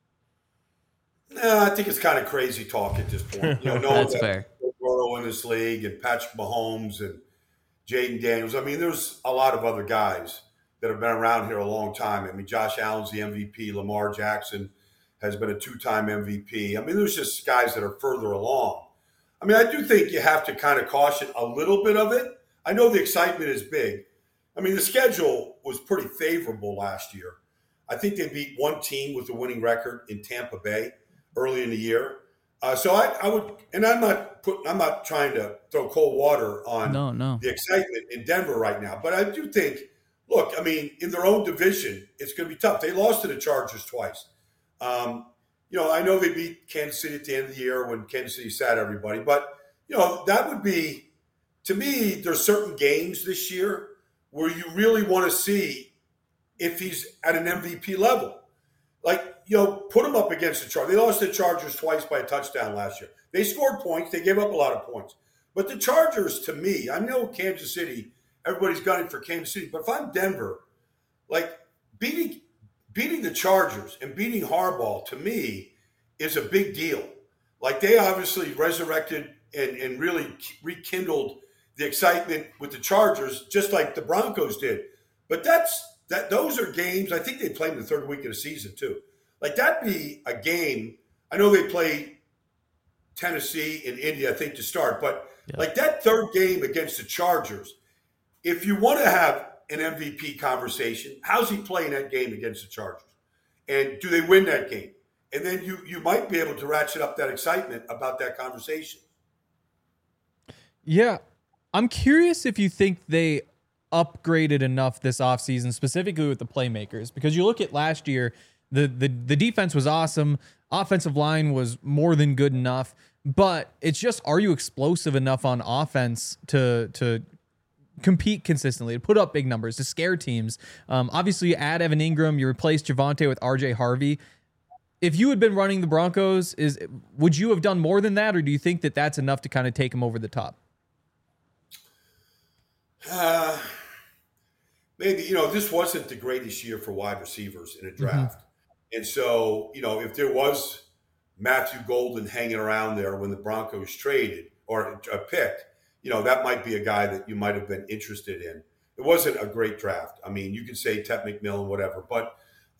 Speaker 6: No, I think it's kind of crazy talk at this point.
Speaker 1: That's fair.
Speaker 6: Burrow in this league and Patrick Mahomes and Jaden Daniels. I mean, there's a lot of other guys that have been around here a long time. I mean, Josh Allen's the MVP. Lamar Jackson has been a two-time MVP. I mean, there's just guys that are further along. I mean, I do think you have to kind of caution a little bit of it. I know the excitement is big. I mean, the schedule was pretty favorable last year. I think they beat one team with a winning record in Tampa Bay early in the year. So I would, and I'm not trying to throw cold water on the excitement in Denver right now, but I do think, look, I mean, in their own division, it's going to be tough. They lost to the Chargers twice. I know they beat Kansas City at the end of the year when Kansas City sat everybody. But, that would be, to me, there's certain games this year where you really want to see if he's at an MVP level. Like, put him up against the Chargers. They lost to the Chargers twice by a touchdown last year. They scored points. They gave up a lot of points. But the Chargers, to me, I know Kansas City, everybody's gunning for Kansas City. But if I'm Denver, like beating the Chargers and beating Harbaugh, to me, is a big deal. Like they obviously resurrected and really rekindled the excitement with the Chargers, just like the Broncos did. But those are games, I think they played in the third week of the season too. Like that'd be a game. I know they play Tennessee and Indy, I think, to start. But like that third game against the Chargers, if you want to have an MVP conversation, how's he playing that game against the Chargers? And do they win that game? And then you might be able to ratchet up that excitement about that conversation.
Speaker 3: Yeah. I'm curious if you think they upgraded enough this offseason, specifically with the playmakers, because you look at last year, the defense was awesome. Offensive line was more than good enough, but it's just, are you explosive enough on offense to compete consistently, to put up big numbers, to scare teams? Obviously, you add Evan Ingram, you replace Javonte with RJ Harvey. if you had been running the Broncos, would you have done more than that, or do you think that that's enough to kind of take him over the top?
Speaker 6: Maybe, this wasn't the greatest year for wide receivers in a draft. And so, if there was Matthew Golden hanging around there when the Broncos traded or picked, that might be a guy that you might have been interested in. It wasn't a great draft. I mean, you could say Ted McMillan, whatever, but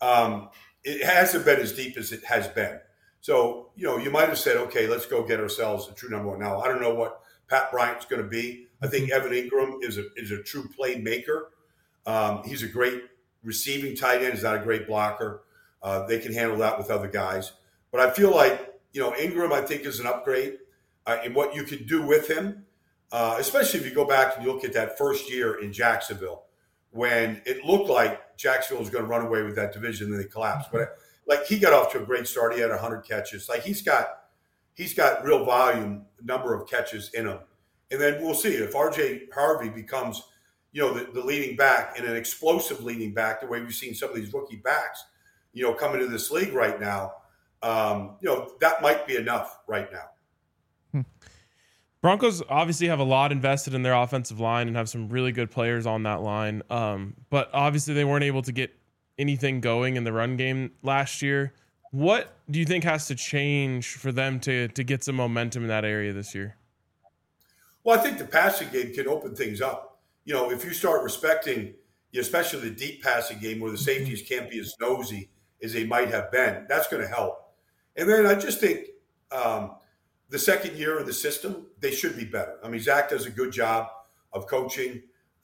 Speaker 6: it hasn't been as deep as it has been. So, you might have said, okay, let's go get ourselves a true number one. Now, I don't know what Pat Bryant's going to be. I think Evan Ingram is a true playmaker. He's a great receiving tight end. He's not a great blocker. They can handle that with other guys. But I feel like, Ingram, I think, is an upgrade in what you can do with him, especially if you go back and you look at that first year in Jacksonville when it looked like Jacksonville was going to run away with that division and then they collapsed. But he got off to a great start. He had 100 catches. He's got real volume, number of catches in him. And then we'll see if RJ Harvey becomes, the leading back and an explosive leading back, the way we've seen some of these rookie backs, coming to this league right now. That might be enough right now.
Speaker 2: Broncos obviously have a lot invested in their offensive line and have some really good players on that line. But obviously they weren't able to get anything going in the run game last year. What do you think has to change for them to get some momentum in that area this year?
Speaker 6: Well, I think the passing game can open things up. If you start respecting, especially the deep passing game where the safeties can't be as nosy as they might have been, that's going to help. And then I just think the second year in the system, they should be better. I mean, Zach does a good job of coaching.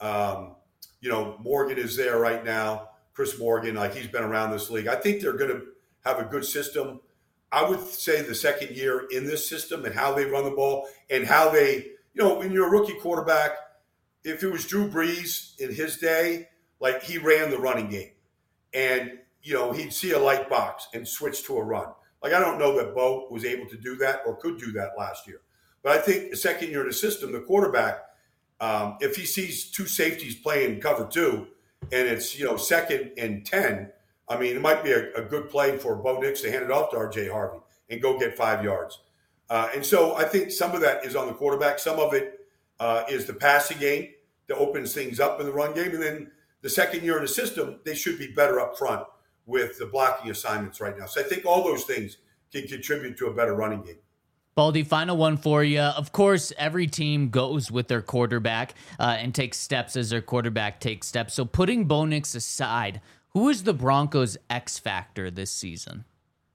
Speaker 6: Morgan is there right now. Chris Morgan, he's been around this league. I think they're going to have a good system. I would say the second year in this system and how they run the ball and how they, when you're a rookie quarterback, if it was Drew Brees in his day, he ran the running game and, he'd see a light box and switch to a run. I don't know that Bo was able to do that or could do that last year. But I think the second year in the system, the quarterback, if he sees two safeties playing cover two and it's, second and 10, I mean, it might be a good play for Bo Nix to hand it off to RJ Harvey and go get 5 yards. And so I think some of that is on the quarterback. Some of it is the passing game that opens things up in the run game. And then the second year in the system, they should be better up front with the blocking assignments right now. So I think all those things can contribute to a better running game.
Speaker 1: Baldy, final one for you. Of course, every team goes with their quarterback and takes steps as their quarterback takes steps. So putting Bo Nix aside, who is the Broncos' X factor this season?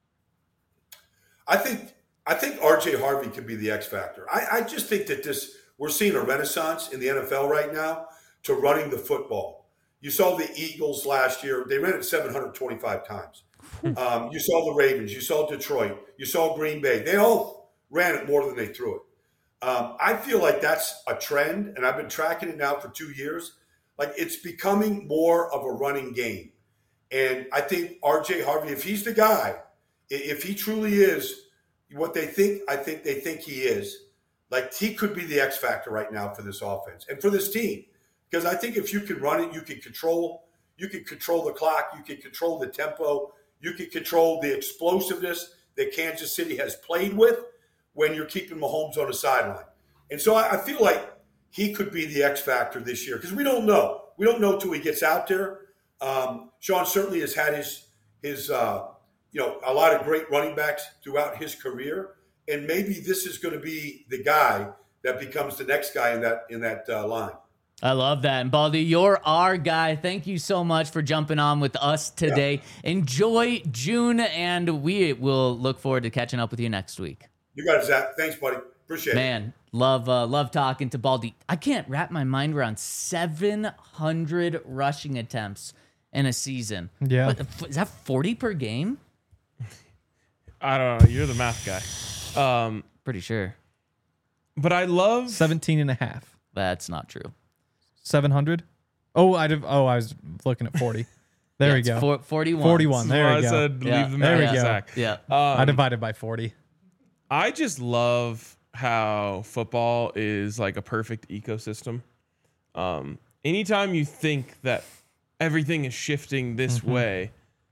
Speaker 6: I think RJ Harvey could be the X factor. I just think that we're seeing a renaissance in the NFL right now to running the football. You saw the Eagles last year. They ran it 725 times. You saw the Ravens. You saw Detroit. You saw Green Bay. They all ran it more than they threw it. I feel like that's a trend, and I've been tracking it now for 2 years. It's becoming more of a running game. And I think RJ Harvey, if he's the guy, if he truly is what they think, I think they think he is, he could be the X factor right now for this offense and for this team. Because I think if you can run it, you can control the clock, you can control the tempo, you can control the explosiveness that Kansas City has played with when you're keeping Mahomes on the sideline. And so I feel like he could be the X factor this year because we don't know. We don't know till he gets out there. Sean certainly has had his a lot of great running backs throughout his career, and maybe this is going to be the guy that becomes the next guy in that line.
Speaker 1: I love that. And Baldy, you're our guy. Thank you so much for jumping on with us today. Yeah. Enjoy June, and we will look forward to catching up with you next week.
Speaker 6: You got it, Zach. Thanks, buddy. Appreciate it.
Speaker 1: Man, love talking to Baldy. I can't wrap my mind around 700 rushing attempts in a season.
Speaker 3: Yeah.
Speaker 1: Is that 40 per game?
Speaker 2: I don't know. You're the math guy.
Speaker 1: Pretty sure.
Speaker 2: But I love
Speaker 3: 17 and a half.
Speaker 1: That's not true.
Speaker 3: 700? Oh, I was looking at 40. There we go.
Speaker 1: 41.
Speaker 3: 41. There we go.
Speaker 2: I said leave the
Speaker 3: there we
Speaker 2: math,
Speaker 3: go.
Speaker 2: Zach.
Speaker 1: Yeah.
Speaker 3: I divided by 40.
Speaker 2: I just love how football is like a perfect ecosystem. Anytime you think that everything is shifting this way,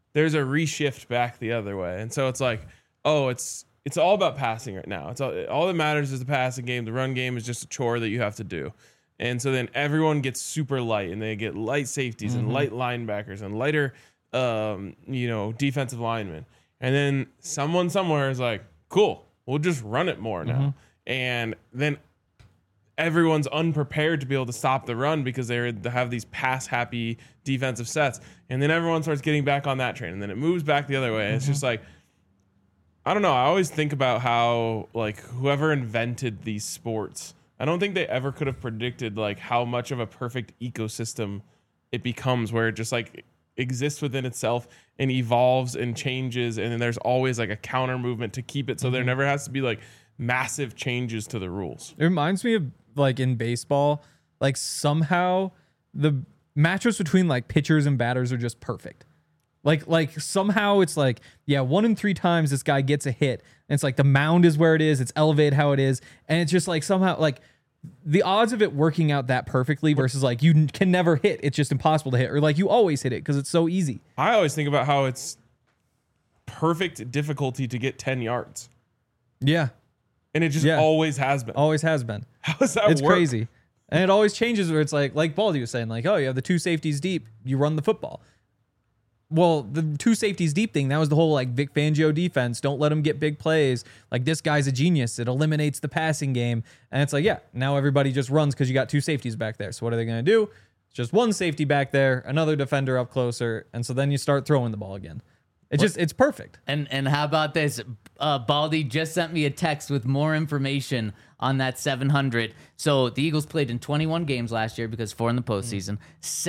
Speaker 2: there's a reshift back the other way. And so it's like, oh, it's all about passing right now. It's all that matters is the passing game. The run game is just a chore that you have to do. And so then everyone gets super light, and they get light safeties and light linebackers and lighter, defensive linemen. And then someone somewhere is like, cool, we'll just run it more now. And then everyone's unprepared to be able to stop the run because they have these pass-happy defensive sets. And then everyone starts getting back on that train, and then it moves back the other way. It's just like, I don't know. I always think about how, like, whoever invented these sports, I don't think they ever could have predicted, like, how much of a perfect ecosystem it becomes, where it just, like, exists within itself and evolves and changes, and then there's always, like, a counter movement to keep it so there never has to be, like, massive changes to the rules.
Speaker 3: It reminds me of, like, in baseball, like, somehow the matchups between, like, pitchers and batters are just perfect. Like somehow it's like, yeah, 1 in 3 times this guy gets a hit, and it's like the mound is where it is, it's elevated how it is, and it's just like somehow, like, the odds of it working out that perfectly versus, like, you can never hit, it's just impossible to hit, or like you always hit it because it's so easy.
Speaker 2: I always think about how it's perfect difficulty to get 10 yards.
Speaker 3: Yeah.
Speaker 2: And it just always has been.
Speaker 3: Always has been.
Speaker 2: How does that
Speaker 3: It's
Speaker 2: work?
Speaker 3: crazy. And it always changes where it's like Baldy was saying, like, oh, you have the 2 safeties deep, you run the football. Well, the 2 safeties deep thing, that was the whole, like, Vic Fangio defense. Don't let him get big plays. Like, this guy's a genius. It eliminates the passing game. And it's like, yeah, now everybody just runs because you got 2 safeties back there. So what are they going to do? It's just 1 safety back there, another defender up closer. And so then you start throwing the ball again. It's perfect.
Speaker 1: And how about this? Baldy just sent me a text with more information on that 700. So the Eagles played in 21 games last year because 4 in the postseason.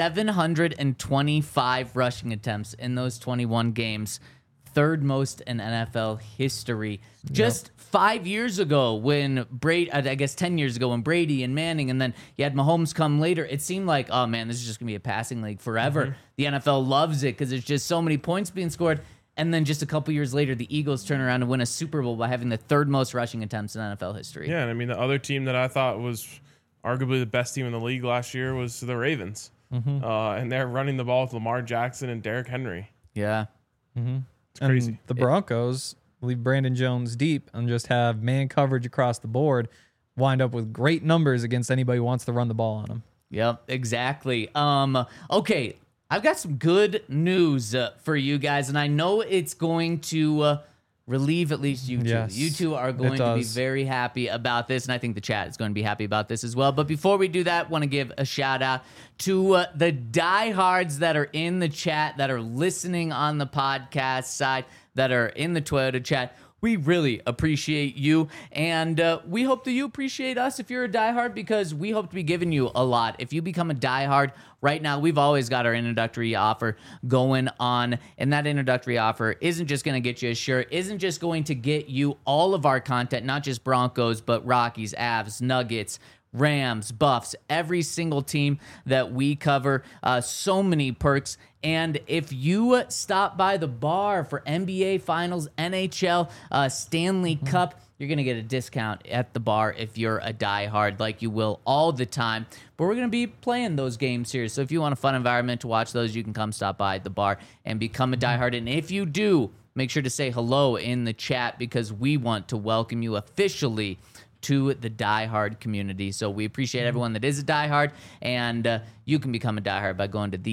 Speaker 1: 725 rushing attempts in those 21 games. 3rd most in NFL history. Just 5 years ago when Brady, I guess 10 years ago when Brady and Manning, and then you had Mahomes come later, it seemed like, oh man, this is just going to be a passing league forever. The NFL loves it because there's just so many points being scored. And then just a couple years later, the Eagles turn around and win a Super Bowl by having the 3rd most rushing attempts in NFL history.
Speaker 2: Yeah, and I mean, the other team that I thought was arguably the best team in the league last year was the Ravens. And they're running the ball with Lamar Jackson and Derrick Henry.
Speaker 1: Yeah.
Speaker 2: It's crazy.
Speaker 3: And the Broncos leave Brandon Jones deep and just have man coverage across the board, wind up with great numbers against anybody who wants to run the ball on them.
Speaker 1: Yep, exactly. Okay, I've got some good news for you guys, and I know it's going to relieve at least you two.
Speaker 3: Yes,
Speaker 1: You two are going to be very happy about this, and I think the chat is going to be happy about this as well. But before we do that, want to give a shout out to the diehards that are in the chat, that are listening on the podcast side, that are in the Toyota chat. We really appreciate you, and we hope that you appreciate us if you're a diehard, because we hope to be giving you a lot. If you become a diehard right now, we've always got our introductory offer going on, and that introductory offer isn't just going to get you a shirt, isn't just going to get you all of our content, not just Broncos, but Rockies, Avs, Nuggets, Rams, Buffs, every single team that we cover. So many perks. And if you stop by the bar for NBA Finals, NHL, Stanley Cup, you're going to get a discount at the bar if you're a diehard, like you will all the time. But we're going to be playing those games here. So if you want a fun environment to watch those, you can come stop by the bar and become a diehard. And if you do, make sure to say hello in the chat, because we want to welcome you officially to the diehard community. So we appreciate everyone that is a diehard, and you can become a diehard by going to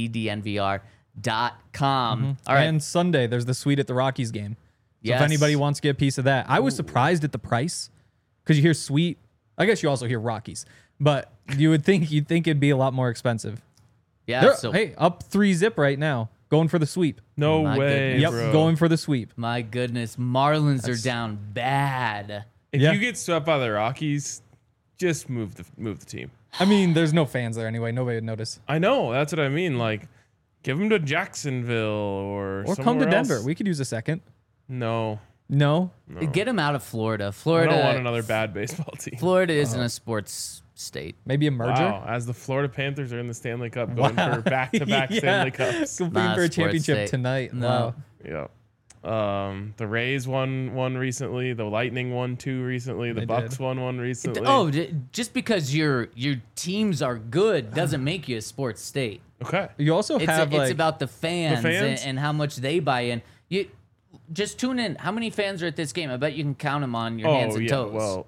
Speaker 1: thednvr.com. All right.
Speaker 3: And Sunday, there's the suite at the Rockies game. So
Speaker 1: Yes.
Speaker 3: if anybody wants to get a piece of that, I was surprised at the price, because you hear suite. I guess you also hear Rockies, but you'd think it'd be a lot more expensive.
Speaker 1: Yeah. So
Speaker 3: Hey, up 3-zip right now, going for the sweep.
Speaker 2: No
Speaker 1: My
Speaker 2: way,
Speaker 1: goodness.
Speaker 3: Yep,
Speaker 2: bro.
Speaker 3: going for the sweep.
Speaker 1: my goodness, Marlins are down bad.
Speaker 2: If
Speaker 3: Yeah.
Speaker 2: you get swept by the Rockies, just move the team.
Speaker 3: I mean, there's no fans there anyway. Nobody would notice.
Speaker 2: I know, that's what I mean. Like, give them to Jacksonville or
Speaker 3: Or come to
Speaker 2: somewhere
Speaker 3: Denver.
Speaker 2: else.
Speaker 3: We could use a second.
Speaker 2: No,
Speaker 3: No.
Speaker 1: Get them out of Florida.
Speaker 2: I
Speaker 1: Florida.
Speaker 2: don't want another bad baseball team.
Speaker 1: Florida isn't a sports state.
Speaker 3: Maybe a merger.
Speaker 2: Wow, as the Florida Panthers are in the Stanley Cup, going for back-to-back
Speaker 3: Yeah.
Speaker 2: Stanley Cups.
Speaker 3: Competing
Speaker 1: Not
Speaker 3: for
Speaker 1: a
Speaker 3: a
Speaker 1: sports
Speaker 3: championship
Speaker 1: state.
Speaker 3: tonight.
Speaker 1: No.
Speaker 3: Wow.
Speaker 2: Yeah. The Rays won recently. The Lightning won 2 recently. The
Speaker 3: They
Speaker 2: Bucks
Speaker 3: did.
Speaker 2: won 1 recently.
Speaker 1: Oh, just because your teams are good doesn't make you a sports state.
Speaker 2: Okay.
Speaker 3: You also
Speaker 1: It's
Speaker 3: have
Speaker 1: it's about the fans,
Speaker 2: fans?
Speaker 1: And how much they buy in. You just tune in. How many fans are at this game? I bet you can count them on your hands and toes.
Speaker 2: Well,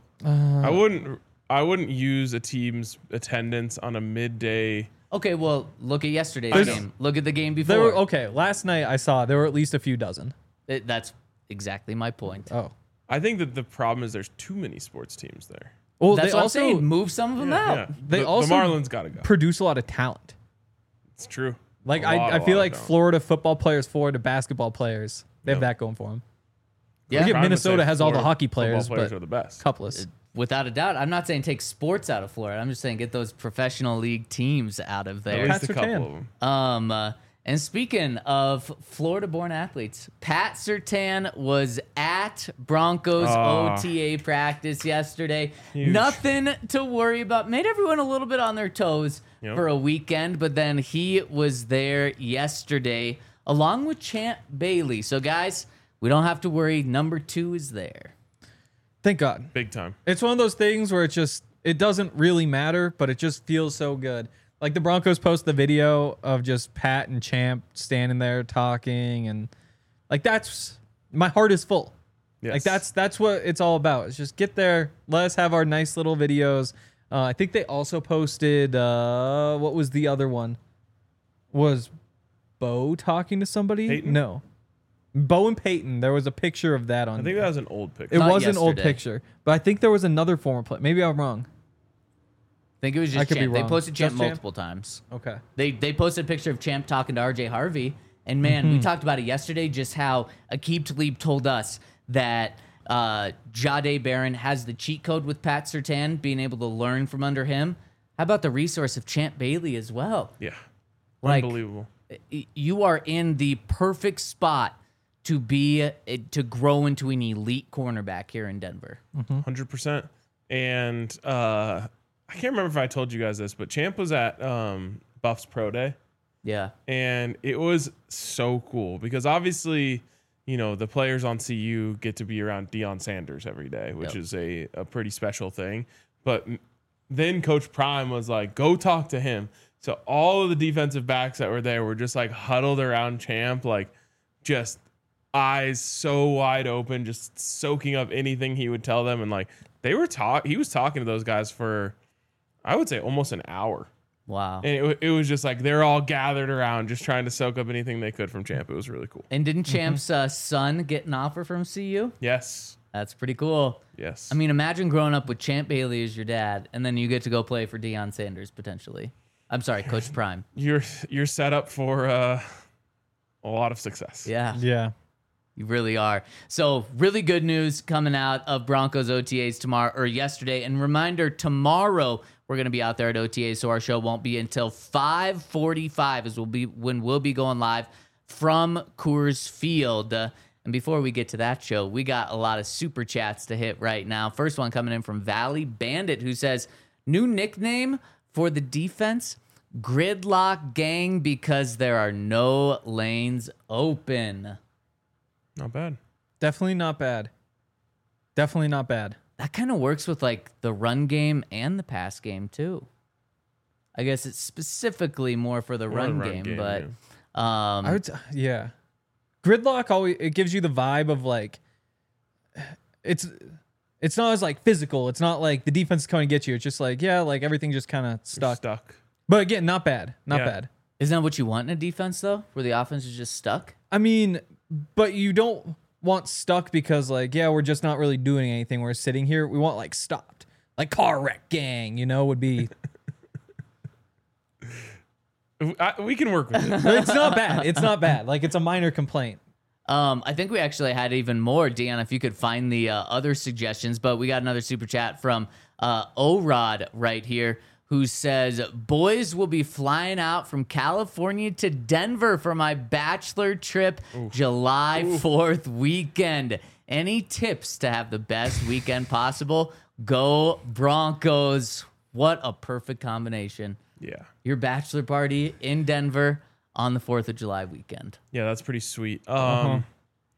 Speaker 2: I wouldn't use a team's attendance on a midday.
Speaker 1: Okay, well, look at yesterday's
Speaker 3: There's-
Speaker 1: game. Look at the game before.
Speaker 3: there were okay. Last night I saw there were at least a few dozen.
Speaker 1: That's exactly my point.
Speaker 3: Oh,
Speaker 2: I think that the problem is there's too many sports teams there.
Speaker 3: well,
Speaker 1: That's
Speaker 3: they
Speaker 1: what I'm
Speaker 3: also
Speaker 1: saying. Move some of them out.
Speaker 3: They
Speaker 2: the
Speaker 3: also
Speaker 2: Marlins got to go.
Speaker 3: produce a lot of talent.
Speaker 2: It's true.
Speaker 3: Like
Speaker 2: A lot
Speaker 3: I feel
Speaker 2: of
Speaker 3: like
Speaker 2: talent.
Speaker 3: Florida football players, Florida basketball players, they have that going for them.
Speaker 1: Yeah,
Speaker 3: Look at
Speaker 2: Trying to
Speaker 3: Minnesota
Speaker 2: say
Speaker 3: has all the
Speaker 2: Florida
Speaker 3: hockey
Speaker 2: football
Speaker 3: players,
Speaker 2: players
Speaker 3: but
Speaker 2: are the best.
Speaker 3: coupleless.
Speaker 1: without a doubt. I'm not saying take sports out of Florida. I'm just saying get those professional league teams out of
Speaker 2: At
Speaker 1: there.
Speaker 2: least
Speaker 3: Pat
Speaker 2: a couple
Speaker 3: Surtain.
Speaker 2: of them.
Speaker 1: And speaking of Florida-born athletes, Pat Surtain was at Broncos OTA practice yesterday.
Speaker 2: Huge.
Speaker 1: Nothing to worry about. Made everyone a little bit on their toes
Speaker 2: Yep.
Speaker 1: for a weekend, but then he was there yesterday along with Champ Bailey. So, guys, we don't have to worry. Number 2 is there.
Speaker 3: Thank God.
Speaker 2: Big time.
Speaker 3: It's one of those things where it doesn't really matter, but it just feels so good. Like the Broncos post the video of just Pat and Champ standing there talking, and like that's my heart is full.
Speaker 2: Yes.
Speaker 3: Like that's what it's all about. It's just get there, let us have our nice little videos. I think they also posted what was the other one? Was Bo talking to somebody?
Speaker 2: Peyton?
Speaker 3: No. Bo and Peyton. There was a picture of that on.
Speaker 2: I think that was an old picture.
Speaker 3: it
Speaker 1: Not
Speaker 3: was an old
Speaker 1: yesterday.
Speaker 3: picture, but I think there was another former player. Maybe I'm wrong.
Speaker 1: I think it was
Speaker 3: I
Speaker 1: just
Speaker 3: could be
Speaker 1: Champ. They
Speaker 3: wrong.
Speaker 1: posted Champ
Speaker 3: Just Champ?
Speaker 1: multiple times.
Speaker 3: Okay.
Speaker 1: They posted a picture of Champ talking to RJ Harvey. And man, we talked about it yesterday, just how Aqib Talib told us that Jade Barron has the cheat code with Pat Surtain, being able to learn from under him. How about the resource of Champ Bailey as well?
Speaker 2: Yeah.
Speaker 1: Like,
Speaker 2: Unbelievable.
Speaker 1: You are in the perfect spot to to grow into an elite cornerback here in Denver.
Speaker 2: 100%. And I can't remember if I told you guys this, but Champ was at Buffs Pro Day.
Speaker 1: Yeah.
Speaker 2: And it was so cool because obviously, you know, the players on CU get to be around Deion Sanders every day, which
Speaker 1: Yep.
Speaker 2: is a pretty special thing. But then Coach Prime was like, go talk to him. So all of the defensive backs that were there were just like huddled around Champ, like just eyes so wide open, just soaking up anything he would tell them. And like he was talking to those guys for, I would say, almost an hour.
Speaker 1: Wow.
Speaker 2: And it was just like they're all gathered around just trying to soak up anything they could from Champ. It was really cool.
Speaker 1: And didn't Champ's son get an offer from CU?
Speaker 2: Yes.
Speaker 1: That's pretty cool.
Speaker 2: Yes.
Speaker 1: I mean, imagine growing up with Champ Bailey as your dad, and then you get to go play for Deion Sanders potentially. I'm sorry, Coach Prime.
Speaker 2: you're set up for a lot of success.
Speaker 1: Yeah,
Speaker 3: Yeah.
Speaker 1: you really are. So, really good news coming out of Broncos OTAs tomorrow or yesterday. And reminder, tomorrow we're going to be out there at OTAs, so our show won't be until 5:45 as when we'll be going live from Coors Field. And before we get to that show, we got a lot of super chats to hit right now. First one coming in from Valley Bandit, who says, new nickname for the defense, Gridlock Gang, because there are no lanes open.
Speaker 2: Not bad.
Speaker 3: Definitely not bad. Definitely not bad.
Speaker 1: That kind of works with like the run game and the pass game too. I guess it's specifically more for the run game, but
Speaker 3: I would, yeah. Gridlock always it gives you the vibe of like it's not as like physical. It's not like the defense is coming to get you. It's just like like everything just kind of stuck.
Speaker 2: Stuck.
Speaker 3: But again, not bad. Not
Speaker 2: Yeah.
Speaker 3: bad.
Speaker 1: isn't that what you want in a defense though, where the offense is just stuck?
Speaker 3: I mean, but you don't want stuck because like we're just not really doing anything. We're sitting here. We want like stopped, like car wreck gang. Would be.
Speaker 2: We can work with it.
Speaker 3: It's not bad. It's not bad. Like it's a minor complaint.
Speaker 1: I think we actually had even more, Deanna, if you could find the other suggestions. But we got another super chat from O-Rod right here, who says, boys will be flying out from California to Denver for my bachelor trip July 4th weekend. Any tips to have the best weekend possible? Go Broncos. What a perfect combination.
Speaker 2: Yeah.
Speaker 1: Your bachelor party in Denver on the 4th of July weekend.
Speaker 2: Yeah, that's pretty sweet.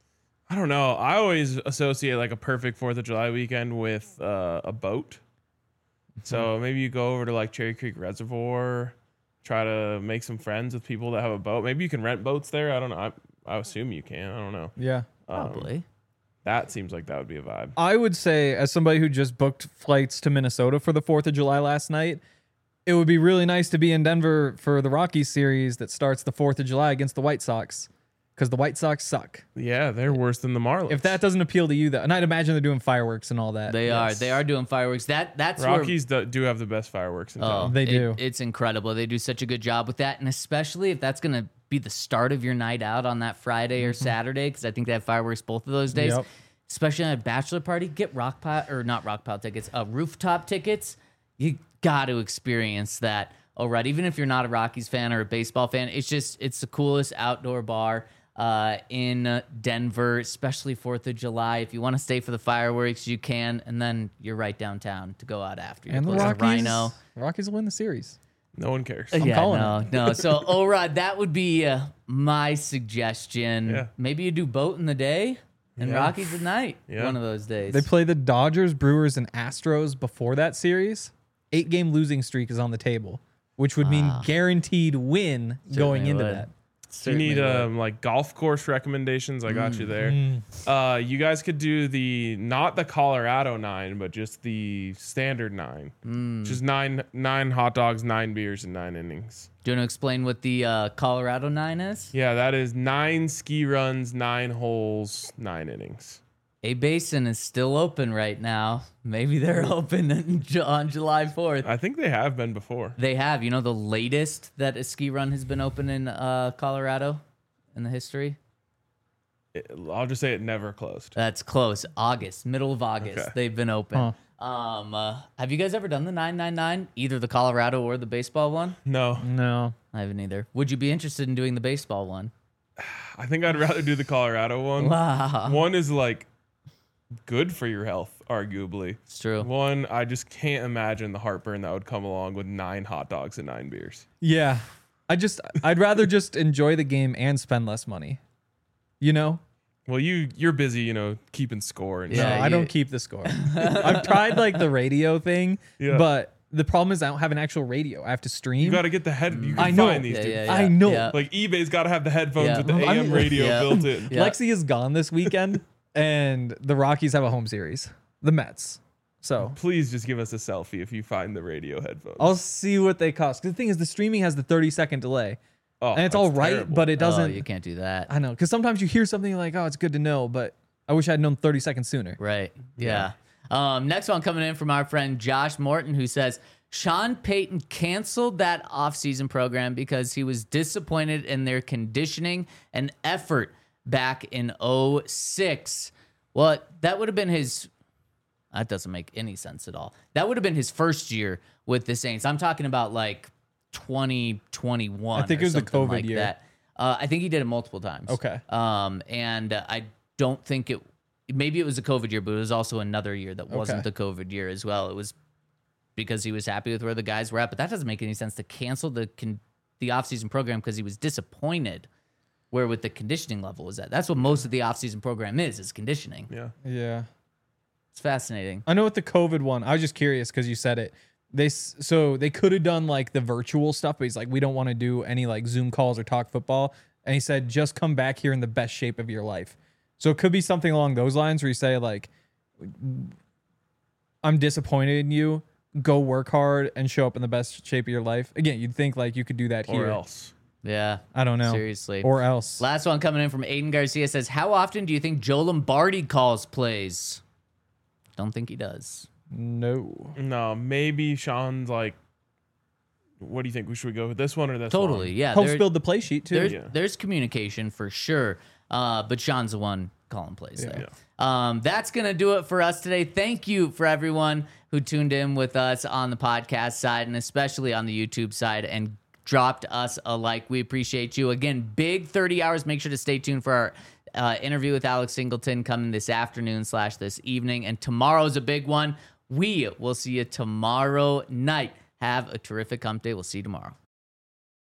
Speaker 2: I don't know. I always associate like a perfect 4th of July weekend with a boat. So maybe you go over to like Cherry Creek Reservoir, try to make some friends with people that have a boat. Maybe you can rent boats there. I don't know. I assume you can. I don't know.
Speaker 3: Yeah.
Speaker 1: Probably.
Speaker 2: That seems like that would be a vibe.
Speaker 3: I would say, as somebody who just booked flights to Minnesota for the 4th of July last night, it would be really nice to be in Denver for the Rockies series that starts the 4th of July against the White Sox, because the White Sox suck.
Speaker 2: Yeah, they're worse than the Marlins.
Speaker 3: If that doesn't appeal to you, and I'd imagine they're doing fireworks and all that.
Speaker 1: They are doing fireworks. That's
Speaker 2: Rockies do have the best fireworks in town.
Speaker 3: They do.
Speaker 1: It's incredible. They do such a good job with that, and especially if that's going to be the start of your night out on that Friday or Saturday, because I think they have fireworks both of those days.
Speaker 3: Yep.
Speaker 1: Especially on a bachelor party, get not tickets, rooftop tickets. You got to experience that. All right, even if you're not a Rockies fan or a baseball fan, it's the coolest outdoor bar in Denver, especially 4th of July. If you want to stay for the fireworks, you can, and then you're right downtown to go out after.
Speaker 3: And the Rockies will win the series.
Speaker 2: No one cares.
Speaker 3: I'm calling it.
Speaker 1: No. So, Orod, that would be my suggestion.
Speaker 2: Yeah.
Speaker 1: Maybe you do boat in the day and
Speaker 2: Yeah.
Speaker 1: Rockies at night.
Speaker 2: Yeah.
Speaker 1: One of those days.
Speaker 3: They play the Dodgers, Brewers, and Astros before that series. 8-game losing streak is on the table, which would mean guaranteed win going into
Speaker 1: would.
Speaker 3: that.
Speaker 2: If you need like golf course recommendations, I got you there. You guys could do not the Colorado 9, but just the standard 9. Just nine hot dogs, 9 beers, and 9 innings.
Speaker 1: Do you want to explain what the Colorado 9 is?
Speaker 2: Yeah, that is 9 ski runs, 9 holes, 9 innings.
Speaker 1: A-Basin is still open right now. Maybe they're open on July 4th.
Speaker 2: I think they have been before.
Speaker 1: They have. You know the latest that a ski run has been open in Colorado in the history?
Speaker 2: I'll just say it never closed.
Speaker 1: That's close. Middle of August.
Speaker 2: Okay.
Speaker 1: They've been open. Have you guys ever done the 999? Either the Colorado or the baseball one?
Speaker 3: No.
Speaker 1: I haven't either. Would you be interested in doing the baseball one?
Speaker 2: I think I'd rather do the Colorado one.
Speaker 1: Wow.
Speaker 2: One is like good for your health, arguably.
Speaker 1: It's true.
Speaker 2: One, I just can't imagine the heartburn that would come along with 9 hot dogs and 9 beers.
Speaker 3: Yeah. I'd rather just enjoy the game and spend less money. You know?
Speaker 2: Well, you're busy, keeping score and
Speaker 1: Yeah,
Speaker 2: stuff.
Speaker 3: I don't keep the score. I've tried like the radio thing,
Speaker 2: Yeah.
Speaker 3: but the problem is I don't have an actual radio. I have to stream.
Speaker 2: You got to get the head. You can
Speaker 3: I know.
Speaker 2: find these, dude.
Speaker 1: Yeah.
Speaker 3: I know.
Speaker 1: Yeah.
Speaker 2: Like eBay's got to have the headphones
Speaker 1: Yeah.
Speaker 2: with the
Speaker 3: I
Speaker 2: AM
Speaker 3: mean-
Speaker 2: radio
Speaker 1: Yeah.
Speaker 2: built in.
Speaker 1: Yeah.
Speaker 3: Lexi is gone this weekend, and the Rockies have a home series, the Mets. So
Speaker 2: Please just give us a selfie if you find the radio headphones.
Speaker 3: I'll see what they cost. 'Cause the thing is, the streaming has the 30-second delay,
Speaker 2: Oh,
Speaker 3: and it's
Speaker 2: that's
Speaker 3: all right,
Speaker 2: terrible.
Speaker 3: but it doesn't.
Speaker 1: Oh, you can't do that.
Speaker 3: I know, because sometimes you hear something like, "Oh, it's good to know," but I wish I'd known 30 seconds sooner.
Speaker 1: Right. Yeah. Next one coming in from our friend Josh Morton, who says Sean Payton canceled that offseason program because he was disappointed in their conditioning and effort back in 2006. Well, that would have been his. That doesn't make any sense at all. That would have been his first year with the Saints. I'm talking about like 2021.
Speaker 3: I think
Speaker 1: or
Speaker 3: it was the
Speaker 1: something
Speaker 3: COVID
Speaker 1: like
Speaker 3: year.
Speaker 1: that. I think he did it multiple times.
Speaker 3: Okay.
Speaker 1: And I don't think maybe it was a COVID year, but it was also another year that wasn't
Speaker 3: Okay.
Speaker 1: the COVID year as well. It was because he was happy with where the guys were at, but that doesn't make any sense to cancel the offseason program because he was disappointed where with the conditioning level was at. That's what most of the offseason program is conditioning.
Speaker 2: Yeah.
Speaker 3: Yeah.
Speaker 1: It's fascinating.
Speaker 3: I know with the COVID one, I was just curious because you said it. So they could have done like the virtual stuff, but he's like, we don't want to do any like Zoom calls or talk football. And he said, just come back here in the best shape of your life. So it could be something along those lines where you say like, I'm disappointed in you. Go work hard and show up in the best shape of your life. Again, you'd think like you could do that here.
Speaker 2: Or else.
Speaker 1: Yeah.
Speaker 3: I don't know.
Speaker 1: Seriously.
Speaker 3: Or else.
Speaker 1: Last one coming in from Aiden Garcia says, how often do you think Joe Lombardi calls plays? Don't think he does.
Speaker 3: No.
Speaker 2: No, maybe Sean's like, what do you think? Should we go with this one or this one?
Speaker 1: Totally. Yeah.
Speaker 3: Helps
Speaker 1: there-
Speaker 3: build the play sheet too.
Speaker 1: There's communication for sure, but Sean's the one calling plays there.
Speaker 2: Yeah.
Speaker 1: That's going to do it for us today. Thank you for everyone who tuned in with us on the podcast side and especially on the YouTube side and dropped us a like. We appreciate you. Again, big 30 hours. Make sure to stay tuned for our interview with Alex Singleton coming this afternoon / this evening. And tomorrow's a big one. We will see you tomorrow night. Have a terrific hump day. We'll see you tomorrow.